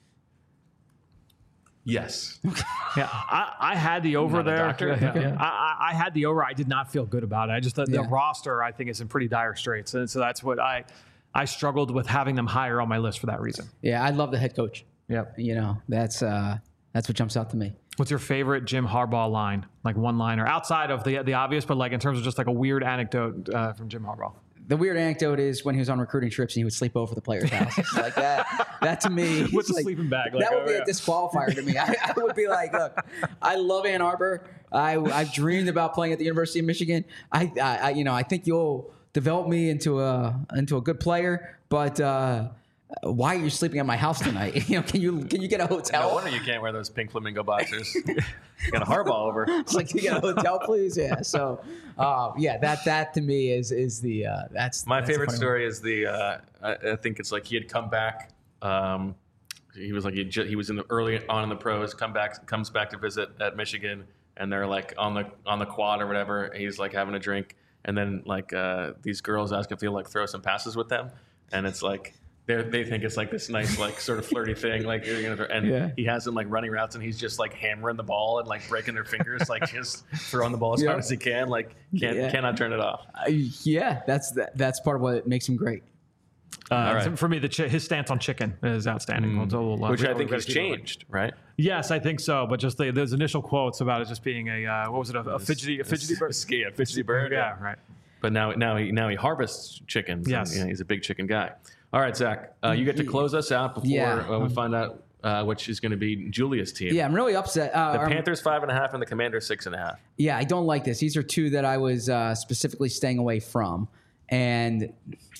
Yes. Yeah, I, I had the over Not a there. doctor? Yeah, Okay. yeah. I, I I had the over. I did not feel good about it. I just the, Yeah. the roster I think is in pretty dire straits, and so that's what I I struggled with having them higher on my list for that reason. Yeah, I love the head coach. Yep. You know, that's uh, that's what jumps out to me. What's your favorite Jim Harbaugh line? Like one liner outside of the the obvious, but like in terms of just like a weird anecdote uh, from Jim Harbaugh. The weird anecdote is when he was on recruiting trips and he would sleep over the players' houses. Like that. That to me, With is the like- sleeping bag, like, that would oh, be yeah. a disqualifier to me. I, I would be like, look, I love Ann Arbor. I I've dreamed about playing at the University of Michigan. I, I, I you know I think you'll develop me into a into a good player, but. Uh, why are you sleeping at my house tonight? You know, can you can you get a hotel? No wonder you can't wear those pink flamingo boxers. You got a Harbaugh over. It's like, can you get a hotel, please? Yeah. So, uh, yeah, that that to me is is the uh, that's My that's the favorite funny story is the. Uh, I, I think it's like he had come back. Um, he was like he, ju- he was in the early on in the pros. Come back, comes back to visit at Michigan, and they're like on the on the quad or whatever. And he's like having a drink, and then like uh, these girls ask if he'll like throw some passes with them, and it's like They they think it's like this nice, like sort of flirty thing, like you know, and Yeah. he has them like running routes, and he's just like hammering the ball and like breaking their fingers, like just throwing the ball as Yeah. hard as he can, like can't Yeah. cannot turn it off. Uh, yeah, that's that, that's part of what makes him great. Uh, right. so for me, the chi- his stance on chicken is outstanding. It's a little, uh, Which we- I think we- has we- changed, right? Yes, I think so. But just the, those initial quotes about it just being a uh, what was it, a, a fidgety, a fidgety bird? Yeah, fidgety bird. Yeah, right. But now, now he now he harvests chickens. and, Yes. you know, he's a big chicken guy. All right, Zach, uh, you get to close us out before Yeah. uh, we find out uh, which is going to be Julia's team. Yeah, I'm really upset. Uh, The I'm- Panthers five and a half and the Commanders six and a half. Yeah, I don't like this. These are two that I was uh, specifically staying away from, and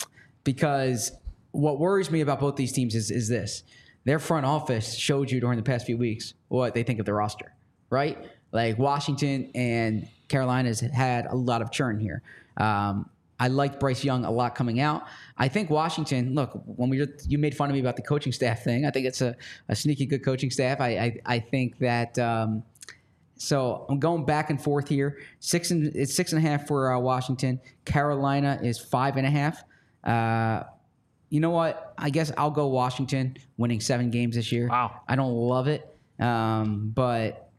because what worries me about both these teams is is this: their front office showed you during the past few weeks what they think of their roster, right? Like Washington and Carolina has had a lot of churn here. Um, I liked Bryce Young a lot coming out. I think Washington. Look, when we you made fun of me about the coaching staff thing, I think it's a, a sneaky good coaching staff. I I, I think that. Um, So I'm going back and forth here. Six and it's six and a half for uh, Washington. Carolina is five and a half. Uh, you know what? I guess I'll go Washington, winning seven games this year. Wow. I don't love it, um, but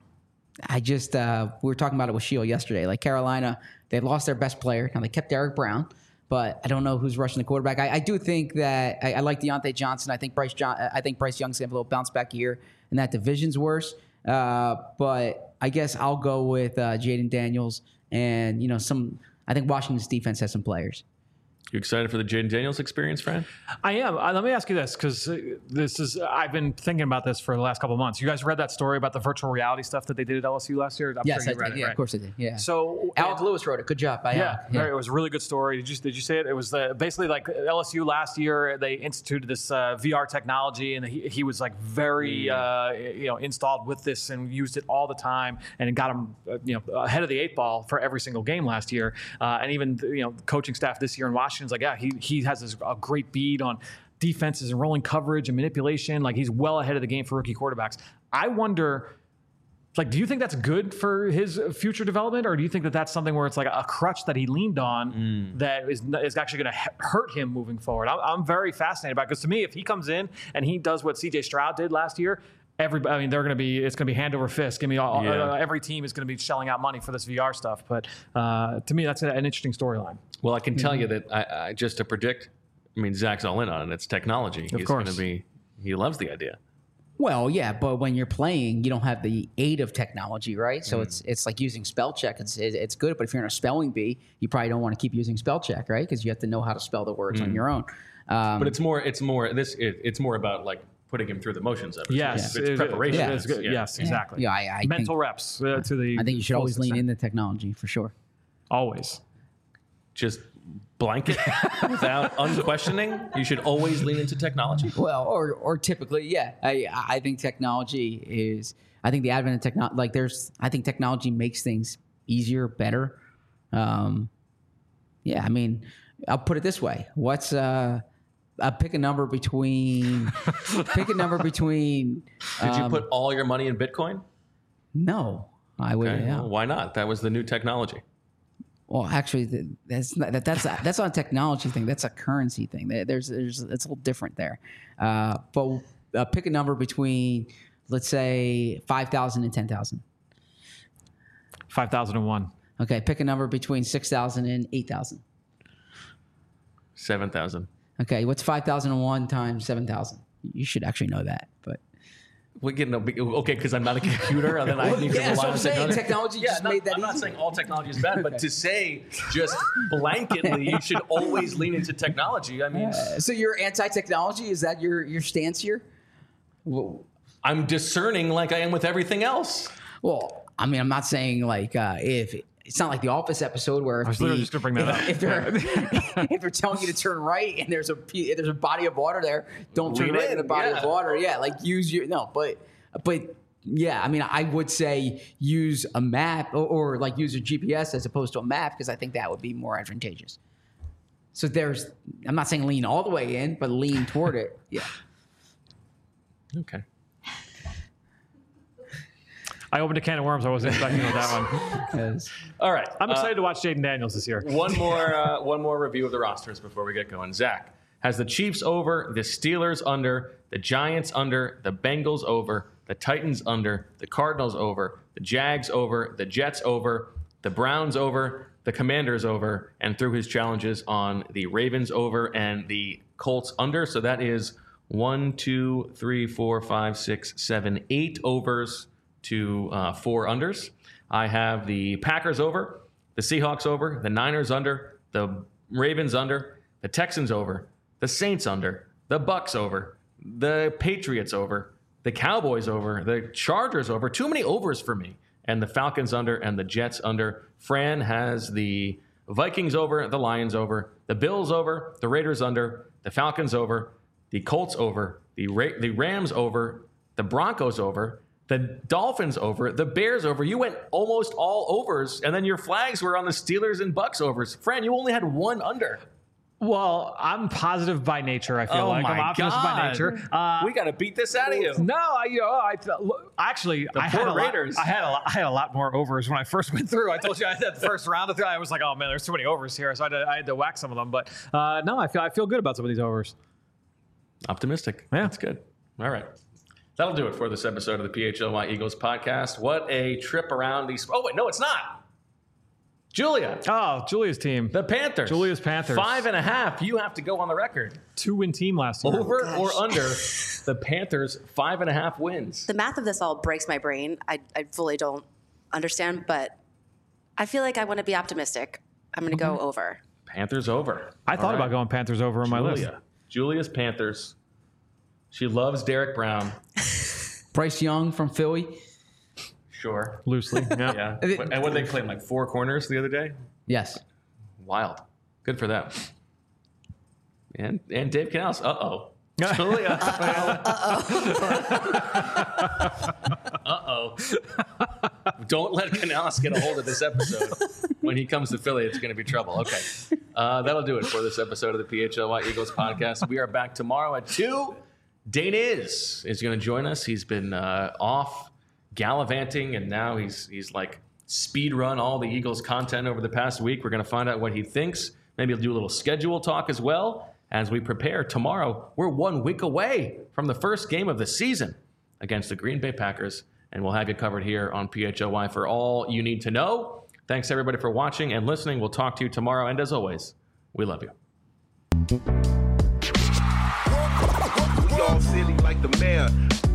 I just uh, we were talking about it with Sheil yesterday. Like Carolina, they lost their best player. Now they kept Derek Brown, but I don't know who's rushing the quarterback. I, I do think that I, I like Deontay Johnson. I think Bryce John. I think Bryce Young's gonna have a little bounce back year, and that division's worse. Uh, but I guess I'll go with uh, Jaden Daniels, and you know some. I think Washington's defense has some players. You excited for the Jaden Daniels experience, Fran? I am. Uh, let me ask you this, because this is I've been thinking about this for the last couple of months. You guys read that story about the virtual reality stuff that they did at L S U last year? I'm Yes, sure I you read did. it, Yeah, right? of course I did. Yeah. So Alec and- Lewis wrote it. Good job by Yeah, Alec. very- it was a really good story. Did you did you see it? It was the, basically like L S U last year. They instituted this uh, V R technology, and he, he was like very uh, you know installed with this and used it all the time, and it got him uh, you know ahead of the eight ball for every single game last year. Uh, and even you know coaching staff this year in Washington's like, yeah, he he has this, a great bead on defenses and rolling coverage and manipulation. Like he's well ahead of the game for rookie quarterbacks. I wonder. Like, do you think that's good for his future development, or do you think that that's something where it's like a crutch that he leaned on Mm. that is is actually going to hurt him moving forward? I'm, I'm very fascinated by it, because to me, if he comes in and he does what C J Stroud did last year, everybody, I mean, they're going to be, it's going to be hand over fist. Give me all, Yeah. uh, every team is going to be shelling out money for this V R stuff. But uh, to me, that's an interesting storyline. Well, I can tell you that I, I just to predict. I mean, Zach's all in on it. It's technology. He's going to course. be. He loves the idea. Well, yeah, but when you're playing, you don't have the aid of technology, right? So it's it's like using spell check. It's it- it's good, but if you're in a spelling bee, you probably don't want to keep using spell check, right? Because you have to know how to spell the words on your own. Um, But it's more. It's more. This. It, it's more about like putting him through the motions of it. Yes, it's it- preparation. it is good. Yeah. Yes, exactly. yeah, I, I Mental think, reps uh, to the. I think you should always fullest lean extent. into technology for sure. Always. Just blanket without unquestioning. You should always lean into technology. Well, or or typically, yeah. I I think technology is. I think the advent of technology, like there's. I think technology makes things easier, better. Um, yeah, I mean, I'll put it this way: what's uh, uh pick a number between, pick a number between. Did you um, put all your money in Bitcoin? No, I would. Okay. Yeah. Well, why not? That was the new technology. Well, actually, th- that's not, that, that's that's not a technology thing. That's a currency thing. There- There's there's it's a little different there. Uh, but uh, pick a number between, let's say, five thousand and ten thousand. five thousand one. Okay, pick a number between six thousand and eight thousand. Seven thousand. Okay, what's five thousand and one times seven thousand? You should actually know that, but We get no okay because I'm not a computer, and then I need to yeah, that's rely what on I'm saying. technology. Technology Yeah, just not- made that I'm not easy. saying all technology is bad, but to say just blanketly you should always lean into technology. I mean, Uh, so you're anti-technology? Is that your your stance here? Well, I'm discerning like I am with everything else. well I mean, I'm not saying like uh, if it's not like the Office episode where if, was literally the- just gonna bring that if, up. if they're if they're telling you to turn right and there's a p- if there's a body of water there, don't turn Lean right in, in the body yeah. of water. Yeah, like use your no, but but yeah, I mean, I would say use a map or, or like use a G P S as opposed to a map because I think that would be more advantageous. So there's, I'm not saying lean all the way in, but lean toward it. Yeah. Okay. I opened a can of worms I wasn't expecting with that one. 'Cause- All right. I'm uh, excited to watch Jaden Daniels this year. one more uh, one more review of the rosters before we get going. Zach, has the Chiefs over, the Steelers under, the Giants under, the Bengals over, the Titans under, the Cardinals over, the Jags over, the Jets over, the Browns over, the Commanders over, and threw his challenges on the Ravens over and the Colts under. So that is one, two, three, four, five, six, seven, eight overs to uh, four unders. I have the Packers over, the Seahawks over, the Niners under, the Ravens under, the Texans over, the Saints under, the Bucks over, the Patriots over, the Cowboys over, the Chargers over. Too many overs for me. And the Falcons under and the Jets under. Fran has the Vikings over, the Lions over, the Bills over, the Raiders under, the Falcons over, the Colts over, the Ra- the Rams over, the Broncos over, the Dolphins over, the Bears over. You went almost all overs, and then your flags were on the Steelers and Bucks overs. Fran, you only had one under. Well, I'm positive by nature. I feel Oh like my I'm optimistic by God. nature. Uh, We got to beat this out of you. No, I, you know, I look, actually The I poor had a Raiders. Lot, I had a lot, I had a lot more overs when I first went through. I told you I had that first round of it. I was like, oh man, there's too many overs here, so I had to, I had to whack some of them. But uh, no, I feel I feel good about some of these overs. Optimistic. Yeah. That's good. All right. That'll do it for this episode of the P H L Y Eagles podcast. What a trip around these. Oh, wait, no, it's not. Julia. Oh, Julia's team, The Panthers. Julia's Panthers. Five and a half. You have to go on the record. two win team last year. Over or under the Panthers' five and a half wins. The math of this all breaks my brain. I, I fully don't understand, but I feel like I want to be optimistic. I'm going to go over. Panthers over. I thought All about right. going Panthers over on my list. Julia. Julia's Panthers. She loves Derek Brown. Bryce Young from Philly. Sure. Loosely, yeah. Yeah. And what did they play? Like four corners the other day? Yes. Wild. Good for them. And and Dave Canales. Uh-oh. Julia. Uh-oh. Don't let Canales get a hold of this episode. When he comes to Philly, it's going to be trouble. Okay. Uh, that'll do it for this episode of the P H L Y Eagles podcast. We are back tomorrow at two. Dane is is going to join us. He's been uh, off gallivanting, and now he's he's like speed run all the Eagles content over the past week. We're going to find out what he thinks. Maybe he'll do a little schedule talk as well as we prepare. Tomorrow, we're one week away from the first game of the season against the Green Bay Packers, and we'll have you covered here on P H L Y for all you need to know. Thanks, everybody, for watching and listening. We'll talk to you tomorrow, and as always, we love you. We all silly like the mayor.